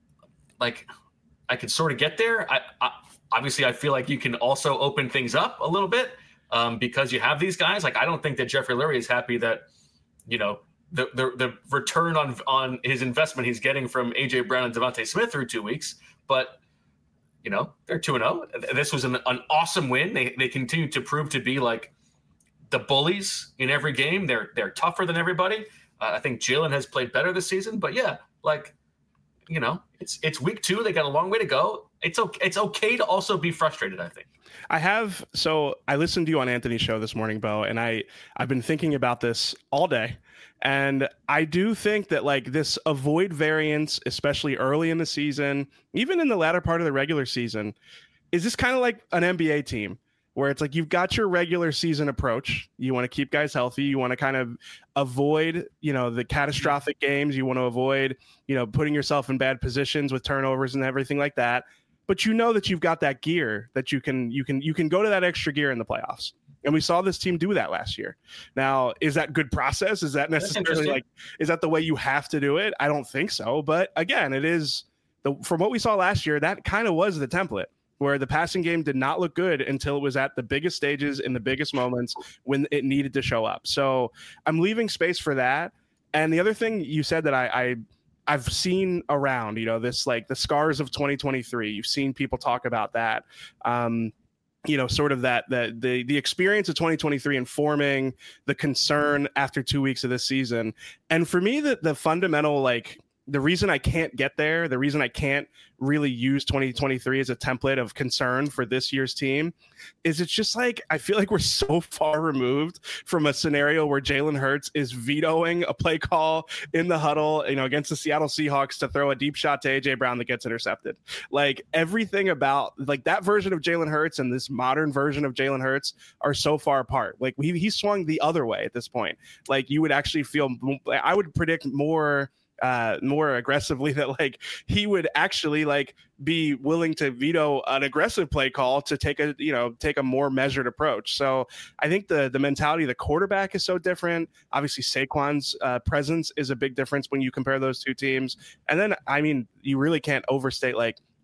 like, I could sort of get there. I, I, obviously, I feel like you can also open things up a little bit um, because you have these guys. Like, I don't think that Jeffrey Lurie is happy that, you know, the the, the return on on his investment he's getting from A J Brown and Devontae Smith through two weeks. But, you know, they're two and oh. This was an, an awesome win. They they continue to prove to be like the bullies in every game. They're they're tougher than everybody. Uh, I think Jalen has played better this season, but yeah, like, you know, it's it's week two. They got a long way to go. It's okay. It's okay to also be frustrated, I think. I have. So I listened to you on Anthony's show this morning, Bo, and I I've been thinking about this all day. And I do think that like this avoid variance, especially early in the season, even in the latter part of the regular season, is this kind of like an N B A team where it's like you've got your regular season approach. You want to keep guys healthy. You want to kind of avoid, you know, the catastrophic games. You want to avoid, you know, putting yourself in bad positions with turnovers and everything like that. But you know that you've got that gear that you can you can you can go to that extra gear in the playoffs. And we saw this team do that last year. Now, is that good process? Is that necessarily like, is that the way you have to do it? I don't think so. But again, it is the, from what we saw last year, that kind of was the template, where the passing game did not look good until it was at the biggest stages in the biggest moments when it needed to show up. So I'm leaving space for that. And the other thing you said that I, I I've seen around, you know, this like the scars of twenty twenty-three. You've seen people talk about that. Um, you know, sort of that, that the, the experience of twenty twenty-three informing the concern after two weeks of this season. And for me, the, the fundamental, like the reason I can't get there, the reason I can't really use twenty twenty-three as a template of concern for this year's team is it's just like, I feel like we're so far removed from a scenario where Jalen Hurts is vetoing a play call in the huddle, you know, against the Seattle Seahawks to throw a deep shot to A J Brown that gets intercepted. Like everything about like that version of Jalen Hurts and this modern version of Jalen Hurts are so far apart. Like he, he swung the other way at this point. Like you would actually feel, I would predict more uh more aggressively that like he would actually like be willing to veto an aggressive play call to take a you know take a more measured approach. So I think the the mentality of the quarterback is so different. Obviously Saquon's uh, presence is a big difference when you compare those two teams. And then I mean you really can't overstate like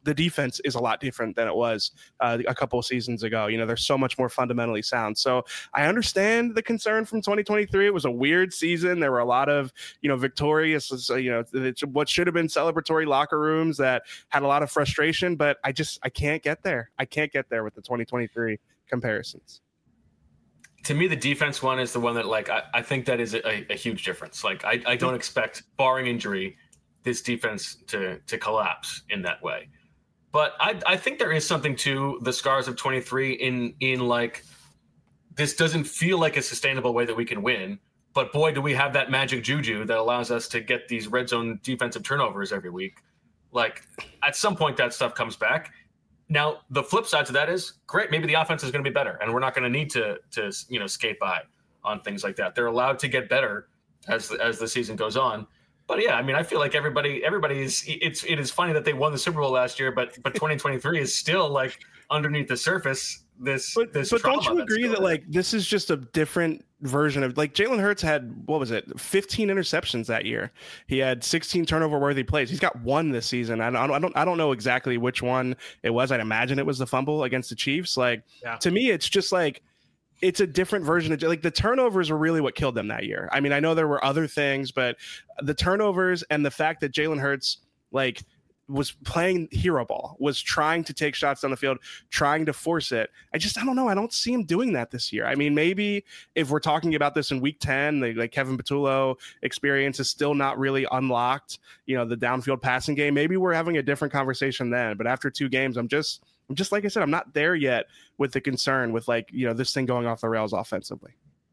the defense is a lot different than it was uh, a couple of seasons ago. You know, they're so much more fundamentally sound. So I understand the concern from twenty twenty-three. It was a weird season. There were a lot of, you know, victorious, you know, what should have been celebratory locker rooms that had a lot of frustration, but I just, I can't get there. I can't get there with the twenty twenty-three comparisons. To me, the defense one is the one that, like, I, I think that is a, a huge difference. Like, I, I don't expect, barring injury, this defense to to collapse in that way. But I, I think there is something to the scars of twenty-three in in like, this doesn't feel like a sustainable way that we can win. But boy, do we have that magic juju that allows us to get these red zone defensive turnovers every week. Like, at some point, that stuff comes back. Now, the flip side to that is, great, maybe the offense is going to be better, and we're not going to need to, to you know, skate by on things like that. They're allowed to get better as the, as the season goes on. But yeah, I mean, I feel like everybody, everybody is. It's it is funny that they won the Super Bowl last year, but but twenty twenty-three is still, like, underneath the surface. This, but, this but don't you agree that there. like this is just a different version of, like, Jalen Hurts had, what was it, fifteen interceptions that year. He had sixteen turnover worthy plays. He's got one this season. I don't, I don't, I don't know exactly which one it was. I'd imagine it was the fumble against the Chiefs. Like, yeah. To me, it's just like, it's a different version of, like, the turnovers are really what killed them that year. I mean, I know there were other things, but the turnovers and the fact that Jalen Hurts, like, was playing hero ball, was trying to take shots down the field, trying to force it. I just, I don't know. I don't see him doing that this year. I mean, maybe if we're talking about this in week ten, the like Kevin Patullo experience is still not really unlocked, you know, the downfield passing game, maybe we're having a different conversation then. But after two games, I'm just, I'm just, like I said, I'm not there yet with the concern with, like, you know, this thing going off the rails offensively.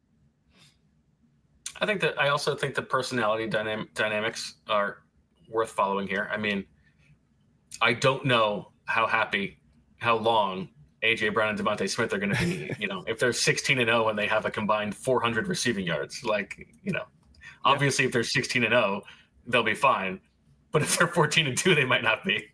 I think that, I also think the personality dynam- dynamics are worth following here. I mean, I don't know how happy, how long A J Brown and Devontae Smith are going to be, you know, if they're sixteen and oh and they have a combined four hundred receiving yards, like, you know, obviously yeah. If they're sixteen and oh, they'll be fine. But if they're fourteen and two, they might not be.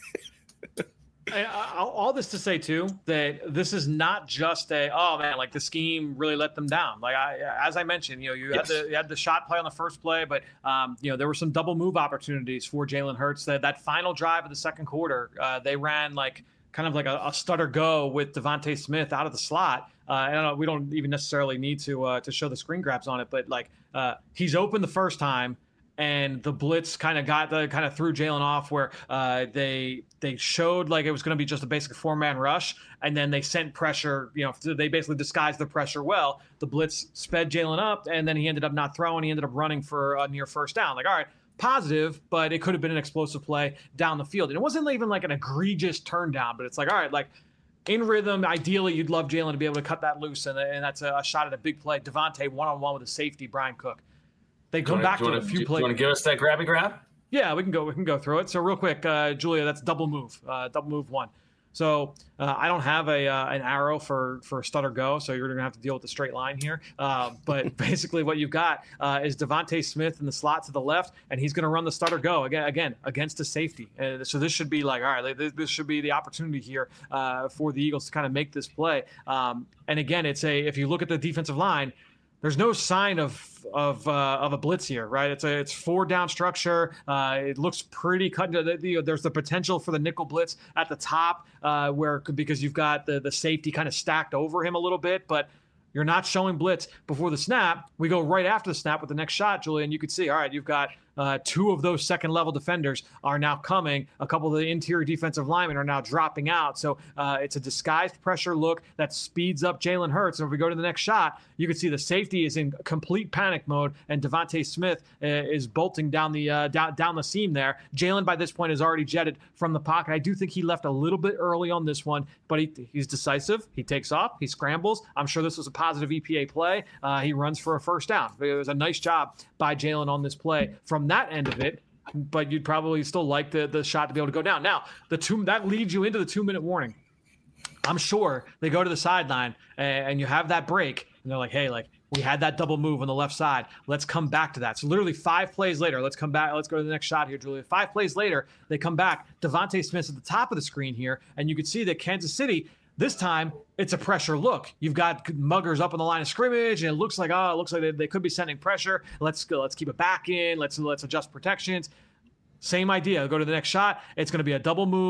I, I, all this to say too that this is not just a, oh man, like the scheme really let them down. Like I, as I mentioned, you know, you yes. had the you had the shot play on the first play, but um, you know, there were some double move opportunities for Jalen Hurts. That that final drive of the second quarter, uh, they ran like kind of like a, a stutter go with Devontae Smith out of the slot. Uh, I don't know, we don't even necessarily need to uh, to show the screen grabs on it, but like uh, he's open the first time. And the blitz kind of got the kind of threw Jalen off where uh, they they showed like it was going to be just a basic four man rush, and then they sent pressure. You know, they basically disguised the pressure well. The blitz sped Jalen up, and then he ended up not throwing. He ended up running for a near first down. Like, all right, positive, but it could have been an explosive play down the field. And it wasn't even like an egregious turn down, but it's like, all right, like in rhythm. Ideally, you'd love Jalen to be able to cut that loose, and, and that's a, a shot at a big play. Devontae one on one with a safety, Brian Cook. They come back to a few plays. You want to give us that grabby grab? Yeah, we can go. We can go through it. So real quick, uh, Julia, that's double move, uh, double move one. So uh, I don't have a uh, an arrow for for stutter go, so you're gonna have to deal with the straight line here. Uh, but basically, what you've got uh, is Devontae Smith in the slot to the left, and he's gonna run the stutter go again, again against a safety. Uh, so this should be like, all right, this, this should be the opportunity here uh, for the Eagles to kind of make this play. Um, and again, it's a if you look at the defensive line. There's no sign of of uh, of a blitz here, right? It's a it's four down structure. Uh, it looks pretty cut. You know, there's the potential for the nickel blitz at the top, uh, where because you've got the the safety kind of stacked over him a little bit, but you're not showing blitz before the snap. We go right after the snap with the next shot, Julian. You can see, all right, you've got uh, two of those second level defenders are now coming. A couple of the interior defensive linemen are now dropping out. So uh, it's a disguised pressure look that speeds up Jalen Hurts. And if we go to the next shot, you can see the safety is in complete panic mode, and Devontae Smith uh, is bolting down the uh, down, down the seam there. Jalen, by this point, is already jetted from the pocket. I do think he left a little bit early on this one, but he, he's decisive. He takes off. He scrambles. I'm sure this was a positive E P A play. Uh, he runs for a first down. It was a nice job by Jalen on this play from that end of it, but you'd probably still like the, the shot to be able to go down. Now, the two that leads you into the two-minute warning. I'm sure they go to the sideline and, and you have that break, and they're like, hey, like, we had that double move on the left side. Let's come back to that. So literally five plays later, let's come back. Let's go to the next shot here, Julia. Five plays later, they come back. Devontae Smith's at the top of the screen here, and you can see that Kansas City, this time, it's a pressure look. You've got muggers up on the line of scrimmage, and it looks like, oh, it looks like they, they could be sending pressure. Let's go. Let's keep it back in. Let's let's adjust protections. Same idea. Go to the next shot. It's going to be a double move.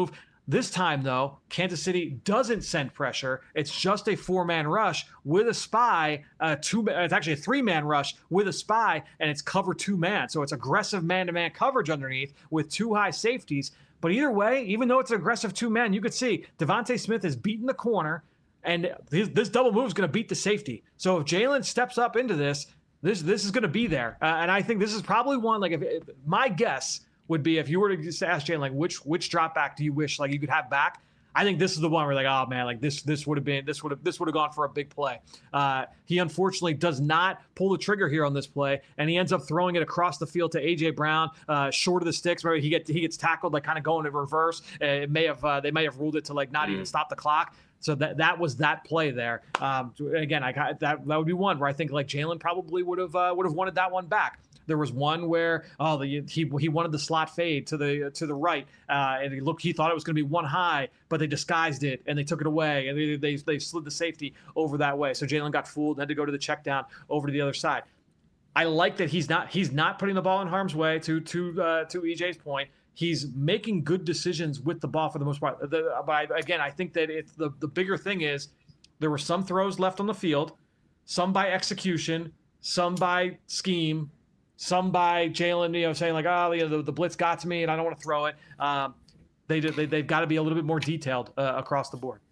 This time, though, Kansas City doesn't send pressure. It's just a four-man rush with a spy. Uh, two. It's actually a three-man rush with a spy, and it's cover two-man. So it's aggressive man-to-man coverage underneath with two high safeties. But either way, even though it's an aggressive two-man, you could see Devontae Smith is beating the corner, and this, this double move is going to beat the safety. So if Jalen steps up into this, this this is going to be there. Uh, and I think this is probably one, like, if, if my guess would be if you were to just ask Jalen, like, which which drop back do you wish like you could have back? I think this is the one where, like, oh man, like this this would have been this would have this would have gone for a big play. Uh, he unfortunately does not pull the trigger here on this play, and he ends up throwing it across the field to A J Brown, uh, short of the sticks. Where he get he gets tackled, like kind of going in reverse. Uh, it may have uh, they may have ruled it to like not mm. even stop the clock. So that that was that play there. Um, again, I got that that would be one where I think like Jalen probably would have uh, would have wanted that one back. There was one where oh the, he he wanted the slot fade to the to the right, uh, and he looked he thought it was going to be one high, but they disguised it and they took it away, and they they, they slid the safety over that way. So Jalen got fooled and had to go to the check down over to the other side. I like that he's not he's not putting the ball in harm's way. To to uh, to E J's point, he's making good decisions with the ball for the most part. The, but I, again, I think that it's the the bigger thing is there were some throws left on the field, some by execution, some by scheme. Some by Jalen, you know, saying like, oh, you know, the, the blitz got to me and I don't want to throw it. Um, they, they, they've got to be a little bit more detailed uh, across the board.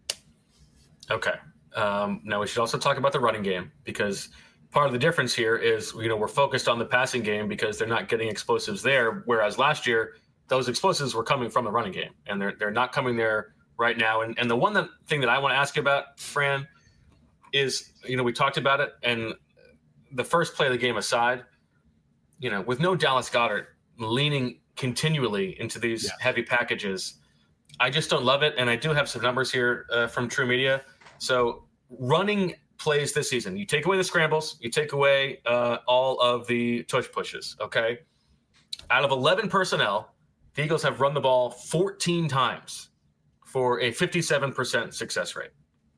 Okay. Um, now we should also talk about the running game, because part of the difference here is, you know, we're focused on the passing game because they're not getting explosives there. Whereas last year, those explosives were coming from the running game, and they're, they're not coming there right now. And, and the one that, thing that I want to ask you about, Fran, is, you know, we talked about it, and the first play of the game aside, you know, with no Dallas Goedert leaning continually into these yeah. heavy packages, I just don't love it. And I do have some numbers here uh, from True Media. So running plays this season, you take away the scrambles, you take away uh, all of the tush pushes, okay? Out of eleven personnel, the Eagles have run the ball fourteen times for a fifty-seven percent success rate.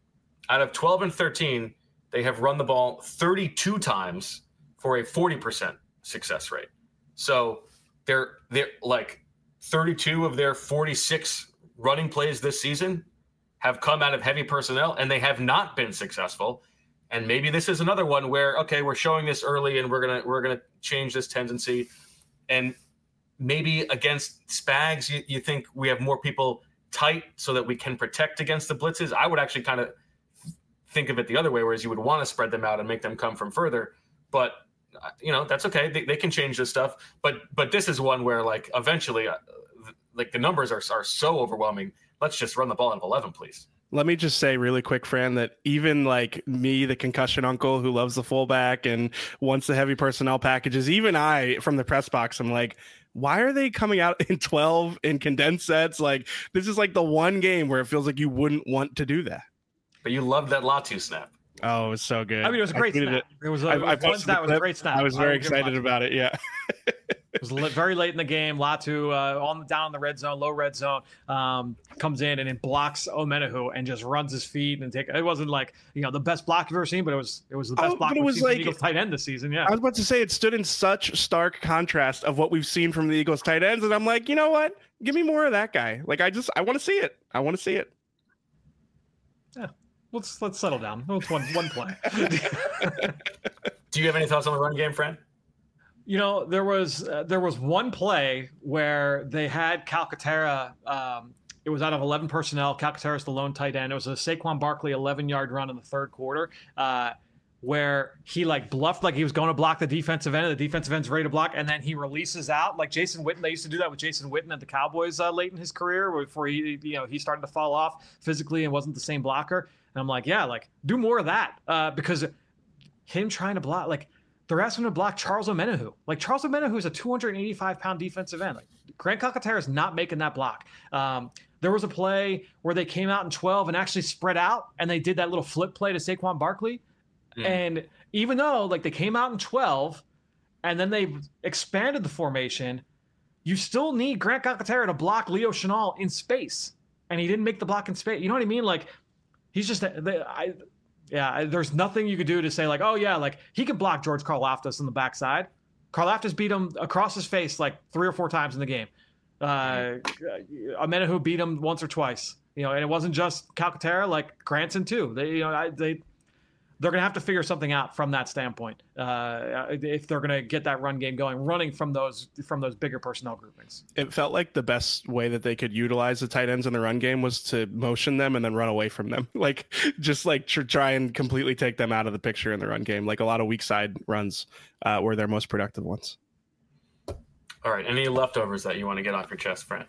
Out of twelve and thirteen, they have run the ball thirty-two times for a forty percent success rate. So they're they're like thirty-two of their forty-six running plays this season have come out of heavy personnel, and they have not been successful. And maybe this is another one where, okay, we're showing this early and we're gonna we're gonna change this tendency. And maybe against Spags, you, you think we have more people tight so that we can protect against the blitzes. I would actually kind of think of it the other way, whereas you would want to spread them out and make them come from further. But you know, that's okay. They, they can change this stuff. But but this is one where, like, eventually, uh, like, the numbers are are so overwhelming. Let's just run the ball out of eleven, please. Let me just say really quick, Fran, that even like me, the concussion uncle who loves the fullback and wants the heavy personnel packages, even I, from the press box, I'm like, why are they coming out in twelve in condensed sets? Like, this is like the one game where it feels like you wouldn't want to do that. But you loved that Latu snap. Oh, it was so good. I mean, it was a great snap. It, it was a, I, it was, I that was a great snap. I was very excited about it. Yeah. It was very late in the game. Latu uh, on down in the red zone, low red zone, um, comes in and it blocks Omenihu and just runs his feet and take. It wasn't like, you know, the best block you've ever seen, but it was it was the best oh, block we've we've seen like, from the Eagles tight end this season. Yeah, I was about to say it stood in such stark contrast of what we've seen from the Eagles tight ends, and I'm like, you know what? Give me more of that guy. Like, I just I want to see it. I want to see it. Yeah. Let's let's settle down. It's one one play. Do you have any thoughts on the run game, Fran? You know, there was uh, there was one play where they had Calcaterra. Um, it was out of eleven personnel. Calcaterra's the lone tight end. It was a Saquon Barkley eleven-yard run in the third quarter, uh, where he like bluffed like he was going to block the defensive end, and the defensive end's ready to block, and then he releases out like Jason Witten. They used to do that with Jason Witten at the Cowboys uh, late in his career, before he you know he started to fall off physically and wasn't the same blocker. And I'm like, yeah, like do more of that uh, because him trying to block, like they're asking him to block Charles Omenihu. Like Charles Omenihu is a two hundred eighty-five pound defensive end. Like Grant Calcaterra is not making that block. Um, there was a play where they came out in twelve and actually spread out, and they did that little flip play to Saquon Barkley. Mm. And even though like they came out in twelve and then they expanded the formation, you still need Grant Calcaterra to block Leo Chenal in space, and he didn't make the block in space. You know what I mean? Like. He's just, I, yeah, there's nothing you could do to say like, oh yeah, like he could block George Karlaftis on the backside. Karlaftis beat him across his face like three or four times in the game. Uh, Amenahu beat him once or twice, you know, and it wasn't just Calcaterra, like Granson too. They, you know, I, they, they're going to have to figure something out from that standpoint uh, if they're going to get that run game going, running from those from those bigger personnel groupings. It felt like the best way that they could utilize the tight ends in the run game was to motion them and then run away from them, like just like tr- try and completely take them out of the picture in the run game. Like a lot of weak side runs uh, were their most productive ones. All right, any leftovers that you want to get off your chest, Fran?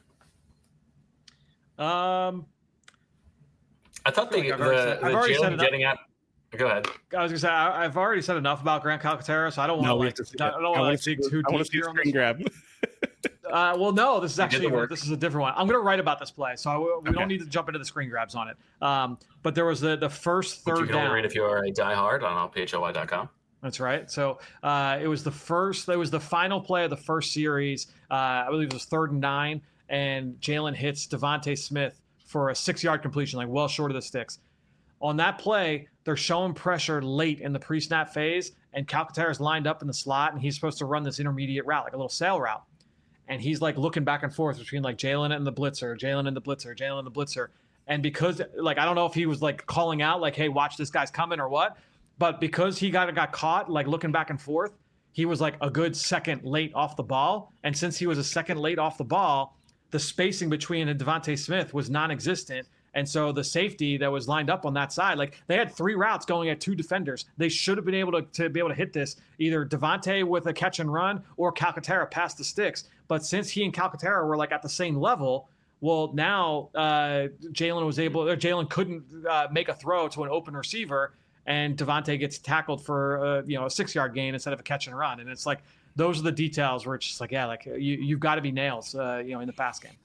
Um, I thought the, like the, said, the Jalen getting at. Go ahead. I was gonna say I, I've already said enough about Grant Calcaterra, so I don't want No, to we like have to see I it. don't want I to wanna like see dig the- too I wanna deep see here the on this. screen grab. Uh, well, no, this is did actually the work. this is a different one. I'm going to write about this play, so I, we Okay. don't need to jump into the screen grabs on it. Um, but there was the the first Which you third can only down. read if you are a diehard on all P H L Y dot com. That's right. So uh, it was the first. It was the final play of the first series. Uh, I believe it was third and nine, and Jalen hits Devontae Smith for a six-yard completion, like well short of the sticks. On that play, they're showing pressure late in the pre-snap phase, and Calcaterra is lined up in the slot, and he's supposed to run this intermediate route, like a little sail route. And he's like looking back and forth between like Jalen and the blitzer, Jalen and the blitzer, Jalen and the blitzer. And because like I don't know if he was like calling out like, hey, watch this guy's coming or what, but because he got got caught like looking back and forth, he was like a good second late off the ball. And since he was a second late off the ball, the spacing between and Devontae Smith was non-existent. And so the safety that was lined up on that side, like they had three routes going at two defenders. They should have been able to, to be able to hit this, either Devontae with a catch and run or Calcaterra past the sticks. But since he and Calcaterra were like at the same level, well, now uh, Jalen was able, or Jalen couldn't uh, make a throw to an open receiver, and Devontae gets tackled for uh, you know a six yard gain instead of a catch and run. And it's like those are the details where it's just like, yeah, like you you've got to be nails, uh, you know, in the pass game.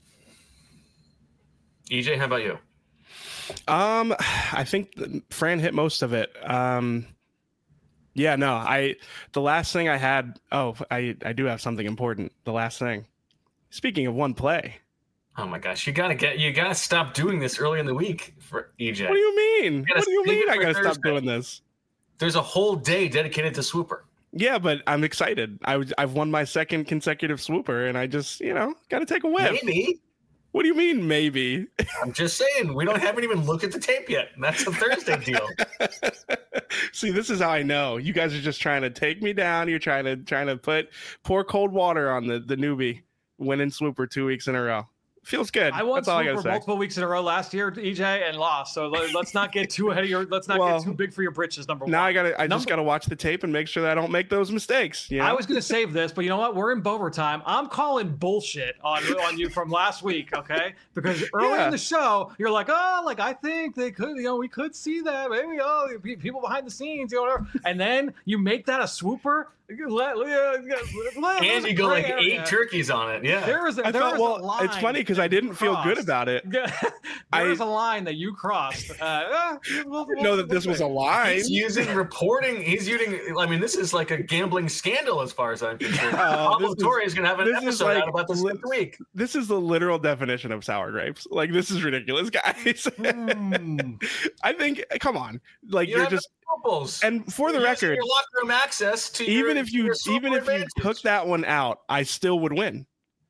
E J, how about you? Um, I think Fran hit most of it. Um, yeah, no, I, the last thing I had, oh, I, I do have something important. The last thing, speaking of one play. Oh my gosh, you gotta get, you gotta stop doing this early in the week for E J. What do you mean? gotta What do you save mean it I for gotta Thursday. stop doing this? There's a whole day dedicated to Swooper. Yeah, but I'm excited. I was, I've won my second consecutive swooper, and I just, you know, got to take a whiff. Maybe. What do you mean, maybe? I'm just saying, we don't haven't even looked at the tape yet. That's a Thursday deal. See, this is how I know. You guys are just trying to take me down. You're trying to trying to put pour cold water on the, the newbie winning swooper two weeks in a row. Feels good. I won That's all I gotta Swooper say. multiple weeks in a row last year, E J, and lost. So let, let's not get too ahead of your. Let's not Well, get too big for your britches. Number one. Now I gotta. I Number- just gotta watch the tape and make sure that I don't make those mistakes. You know? I was going to save this, but you know what? We're in Bover time. I'm calling bullshit on on you from last week, okay? Because early Yeah. in the show, you're like, oh, like I think they could, you know, we could see that, maybe, oh, pe- people behind the scenes, you know, whatever. And then you make that a swooper. Let, let, let, And you go like eight turkeys on it. Yeah. There was a, I there thought. was a Well, line it's funny because I didn't feel good crossed. about it. there I- was a line that you crossed. Uh, uh, we'll, I didn't know that this was a lie. He's using reporting. He's using. I mean, this is like a gambling scandal as far as I'm concerned. Oh, Pablo this is- Torre is going to have an this is episode like out about this li- next week. This is the literal definition of sour grapes. Like this is ridiculous, guys. Mm. I think. Come on, like You you're have just. Samples. And for the You're using record, your locker room access to even your, if you your even if you advantage. took that one out, I still would win.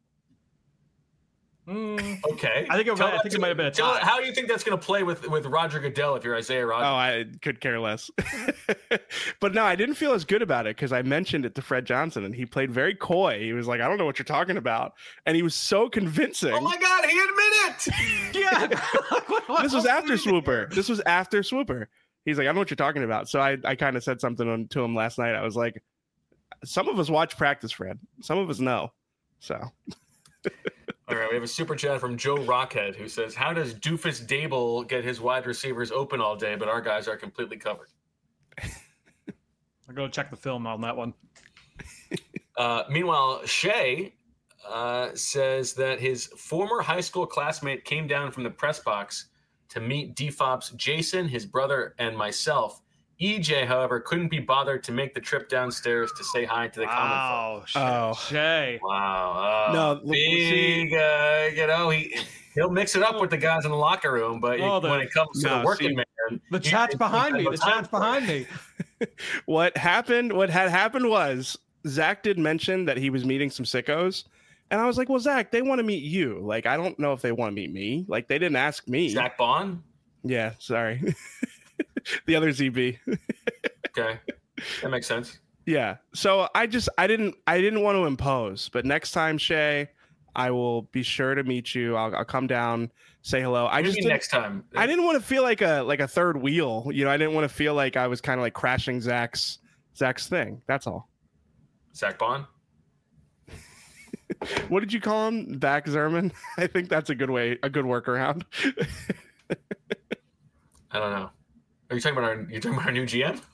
Mm. Okay. I think it, Tell I that think to- it might have been a tell- tie. How do you think that's going to play with with Roger Goodell if you're Isaiah Oh, Rodgers? I could care less. But no, I didn't feel as good about it because I mentioned it to Fred Johnson and he played very coy. He was like, I don't know what you're talking about. And he was so convincing. Oh my God, he admitted it. Yeah. This was after Swooper. This was after Swooper. He's like, I don't know what you're talking about. So I, I kind of said something on, to him last night. I was like, some of us watch practice, Fred. Some of us know. So All right, we have a super chat from Joe Rockhead who says, how does Doofus Dable get his wide receivers open all day, but our guys are completely covered? I'll go check the film on that one. Uh, meanwhile, Shea uh, says that his former high school classmate came down from the press box to meet D F O P's Jason, his brother, and myself. E J, however, couldn't be bothered to make the trip downstairs to say hi to the Wow, Shay. Oh. Shay. common folk. Wow. Uh, No, look, big, uh, you know, he, he'll mix it up with the guys in the locker room, but Oh, the- when it comes to No, the working see, man, The he- chat's he- behind me. he The has no time chat's for it. behind me. what happened, what had happened was Zach did mention that he was meeting some sickos And I was like, well, Zach, they want to meet you. Like, I don't know if they want to meet me. Like, they didn't ask me. Zach Bond? Yeah, sorry. The other Z B. Okay. That makes sense. Yeah. So I just, I didn't, I didn't want to impose. But next time, Shay, I will be sure to meet you. I'll, I'll come down, say hello. I just next time. I didn't want to feel like a like a third wheel. You know, I didn't want to feel like I was kind of like crashing Zach's Zach's thing. That's all. Zach Bond? What did you call him? Zach Zerman? I think that's a good way, a good workaround. I don't know. Are you talking about our? You talking about our new G M?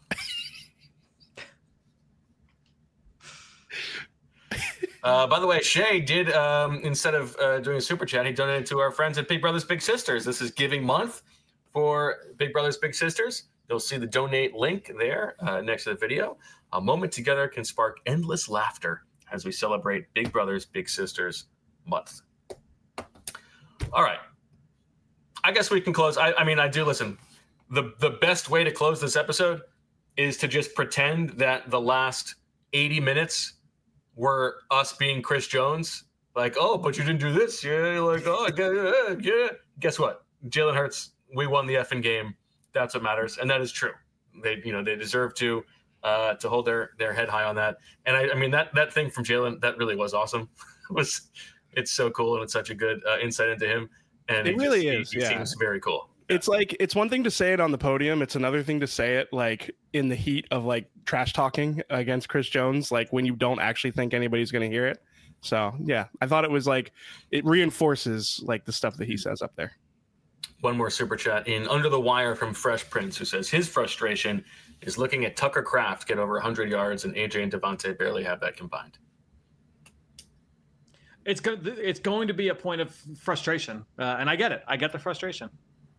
uh, by the way, Shay did um, instead of uh, doing a super chat, he donated to our friends at Big Brothers Big Sisters. This is Giving Month for Big Brothers Big Sisters. You'll see the donate link there uh, next to the video. A moment together can spark endless laughter as we celebrate Big Brothers Big Sisters month. All right. I guess we can close. I, I mean, I do listen. The, the best way to close this episode is to just pretend that the last eighty minutes were us being Chris Jones. Like, oh, but you didn't do this. Yeah, like, oh, yeah, yeah. Guess what? Jalen Hurts, we won the effing game. That's what matters. And that is true. They, you know, they deserve to uh, to hold their, their head high on that. And I, I mean, that, that thing from Jalen, that really was awesome. it was, it's so cool. And it's such a good uh, insight into him. And it he really just, is. He, he yeah. seems very cool. It's like, it's one thing to say it on the podium. It's another thing to say it like in the heat of like trash talking against Chris Jones, like when you don't actually think anybody's going to hear it. So yeah, I thought it was like, it reinforces like the stuff that he says up there. One more super chat in Under the Wire from Fresh Prince, who says his frustration is looking at Tucker Kraft get over one hundred yards and A J and Devontae barely have that combined. It's go- it's going to be a point of frustration, uh, and I get it. I get the frustration.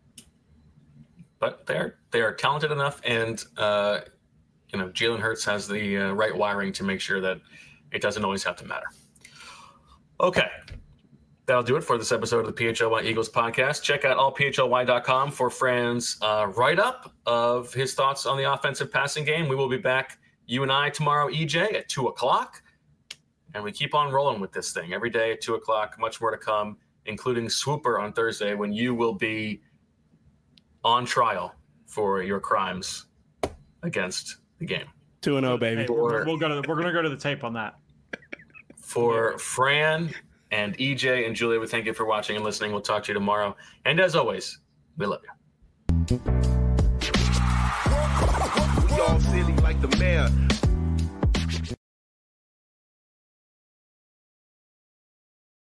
But they're they are talented enough, and uh, you know Jalen Hurts has the uh, right wiring to make sure that it doesn't always have to matter. Okay. That'll do it for this episode of the P H L Y Eagles podcast. Check out all P H L Y dot com for Fran's uh, write-up of his thoughts on the offensive passing game. We will be back, you and I, tomorrow, E J, at two o'clock. And we keep on rolling with this thing every day at two o'clock. Much more to come, including Swooper on Thursday, when you will be on trial for your crimes against the game. two and oh, baby. Hey, we're, we'll go to the, we're going to go to the tape on that. For Fran and E J and Julia, we thank you for watching and listening. We'll talk to you tomorrow. And as always, we love you. We all silly like the mayor.